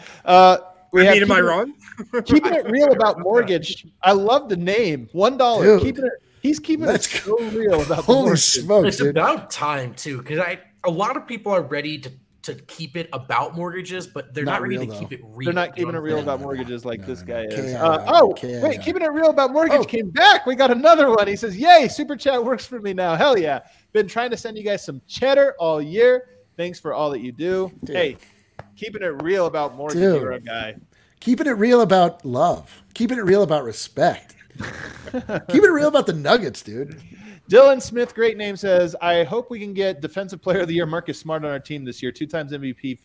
Am I wrong? Keeping it real about mortgage. I love the name. $1. He's keeping it so real about holy smokes. It's about time too, because a lot of people are ready to keep it about mortgages, but they're not ready to keep it real. They're not keeping it real about mortgages like this guy is. Wait, keeping it real about mortgage came back. We got another one. He says, yay, super chat works for me now. Hell yeah. Been trying to send you guys some cheddar all year. Thanks for all that you do. Dude. Hey, keeping it real about mortgage, you're a guy. Keeping it real about love. Keeping it real about respect. Keeping it real about the Nuggets, dude. Dylan Smith, great name, says, I hope we can get Defensive Player of the Year Marcus Smart on our team this year. 2 times MVP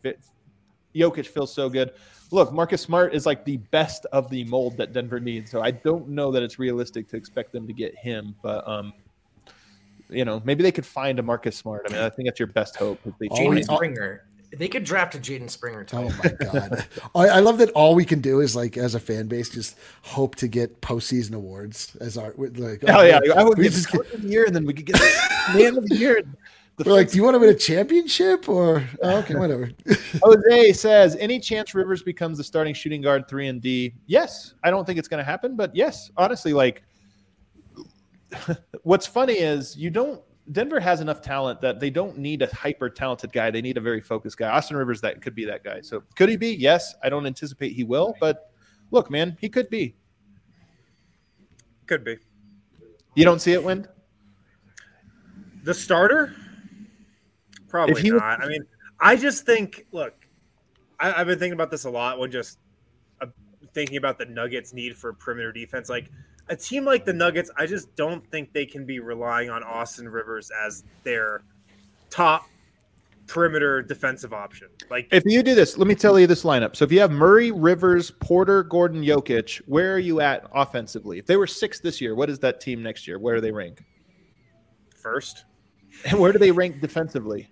Jokic feels so good. Look, Marcus Smart is like the best of the mold that Denver needs, so I don't know that it's realistic to expect them to get him, but maybe they could find a Marcus Smart. I mean, I think that's your best hope. Jaden Springer They could draft a Jaden Springer too. Oh my god! I love that all we can do is like as a fan base just hope to get postseason awards as our like. Oh yeah, I would we get just Coach of the year, and then we could get man of the year. We're like, do you want to win a championship or okay, whatever. Jose says, any chance Rivers becomes the starting shooting guard 3 and D? Yes, I don't think it's going to happen, but yes, honestly, like what's funny is Denver has enough talent that they don't need a hyper talented guy. They need a very focused guy. Austin Rivers, that could be that guy. So could he be? Yes. I don't anticipate he will, but look, man, he could be. Could be. You don't see it, Wind? The starter? Probably not. I mean, I just think, look, I've been thinking about this a lot when just thinking about the Nuggets' need for perimeter defense. Like, a team like the Nuggets, I just don't think they can be relying on Austin Rivers as their top perimeter defensive option. Like, if you do this, let me tell you this lineup. So if you have Murray, Rivers, Porter, Gordon, Jokic, where are you at offensively? If they were 6th this year, what is that team next year? Where do they rank? First. And where do they rank defensively?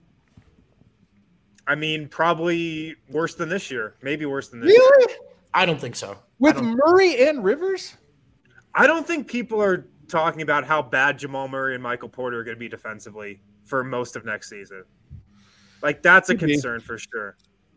I mean, probably worse than this year. Maybe worse than this Really? year. I don't think so. With Murray and Rivers? I don't think people are talking about how bad Jamal Murray and Michael Porter are going to be defensively for most of next season. Like, that's a concern for sure.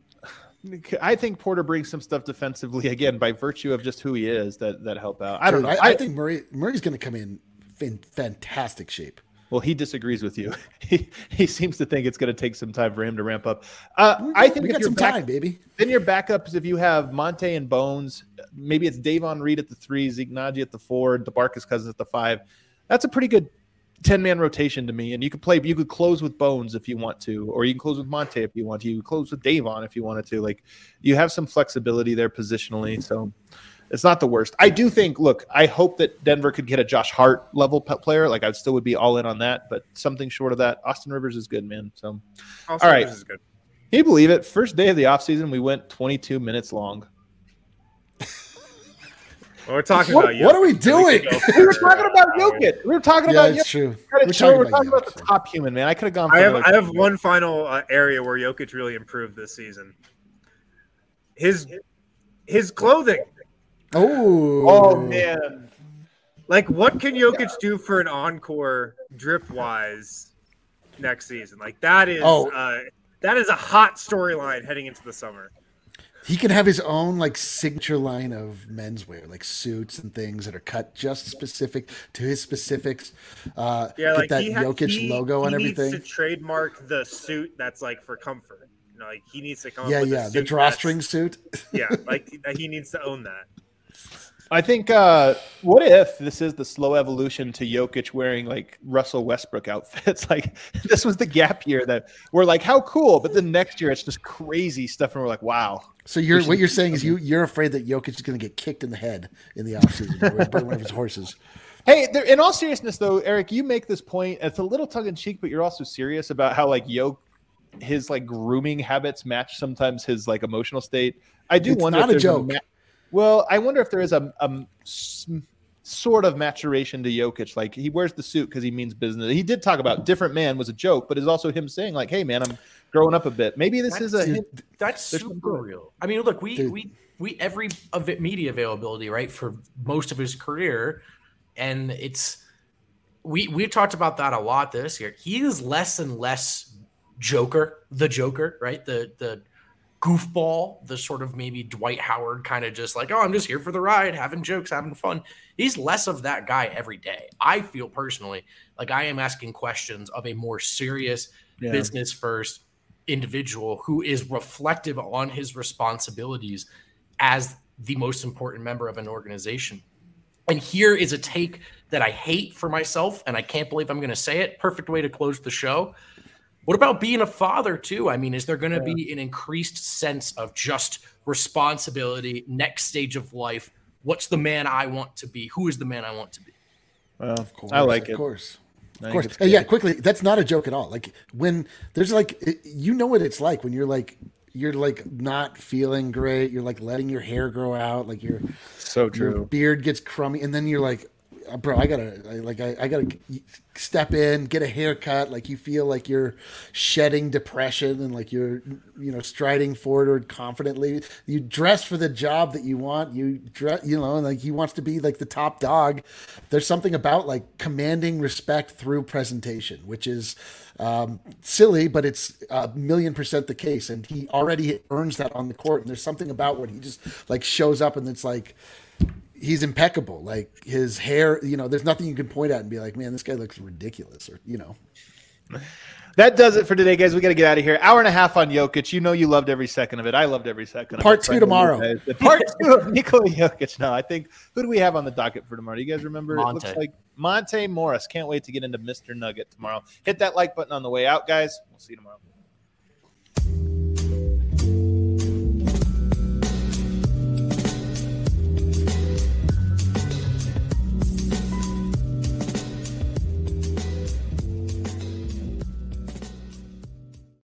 I think Porter brings some stuff defensively, again, by virtue of just who he is that help out. I don't know. I think Murray's going to come in fantastic shape. Well, he disagrees with you. He seems to think it's going to take some time for him to ramp up. I think we got some time, baby. Then your backups, if you have Monte and Bones, maybe it's Davon Reed at the 3, Zeke Naji at the 4, DeMarcus Cousins at the 5. That's a pretty good 10-man rotation to me. And you could close with Bones if you want to, or you can close with Monte if you want to. You can close with Davon if you wanted to. Like, you have some flexibility there positionally, so it's not the worst. I do think, look, I hope that Denver could get a Josh Hart level player. Like, I still would be all in on that, but something short of that. Austin Rivers is good, man. So, all right. Is good. Can you believe it? First day of the offseason, we went 22 minutes long. Well, we're talking about Jokic. What are we doing? We were talking about Jokic. We were talking about Jokic. True. We're talking about the top human, man. I could have gone. I have one final area where Jokic really improved this season. His clothing. Oh man! Like, what can Jokic do for an encore drip wise next season? Like, that is a hot storyline heading into the summer. He can have his own like signature line of menswear, like suits and things that are cut just specific to his specifics. Like get that Jokic logo and everything. He needs to trademark the suit that's like for comfort. You know, like, he needs to come up with the drawstring suit. Yeah, like he needs to own that. I think, what if this is the slow evolution to Jokic wearing like Russell Westbrook outfits? Like, this was the gap year that we're like, how cool, but then next year it's just crazy stuff, and we're like, wow. So what you're saying is you're afraid that Jokic is going to get kicked in the head in the offseason by one of his horses. Hey, in all seriousness, though, Eric, you make this point. It's a little tongue in cheek, but you're also serious about how like his like grooming habits match sometimes his like emotional state. I do wonder. Not if a joke. Well, I wonder if there is a sort of maturation to Jokic. Like, he wears the suit because he means business. He did talk about different man was a joke, but it's also him saying like, "Hey, man, I'm growing up a bit." Maybe that's super real. I mean, look, we every media availability, right, for most of his career, and it's we talked about that a lot this year. He is less and less the Joker, right? The goofball, the sort of maybe Dwight Howard kind of just like, oh, I'm just here for the ride, having jokes, having fun. He's less of that guy every day. I feel personally like I am asking questions of a more serious business first individual who is reflective on his responsibilities as the most important member of an organization. And here is a take that I hate for myself, and I can't believe I'm going to say it. Perfect way to close the show. What about being a father too? I mean, is there going to be an increased sense of just responsibility, next stage of life? What's the man I want to be? Who is the man I want to be? Well, of course, I like it. Of course. Yeah, quickly. That's not a joke at all. Like, when there's like, you know what it's like when you're like not feeling great. You're like letting your hair grow out. Like, so true. Your beard gets crummy. And then you're like, bro, I gotta step in, get a haircut. Like you feel like you're shedding depression and like you're, striding forward confidently. You dress for the job that you want. You dress, and like he wants to be like the top dog. There's something about like commanding respect through presentation, which is silly, but it's 1,000,000% the case. And he already earns that on the court. And there's something about when he just like shows up and it's like, he's impeccable. Like his hair, there's nothing you can point at and be like, man, this guy looks ridiculous, or. That does it for today, guys. We got to get out of here. Hour and a half on Jokic. You loved every second of it. I loved every second of it. Part 2 tomorrow. Part 2 of Nikola Jokic. No, I think, who do we have on the docket for tomorrow? Do you guys remember? Monte. It looks like Monte Morris. Can't wait to get into Mr. Nugget tomorrow. Hit that like button on the way out, guys. We'll see you tomorrow.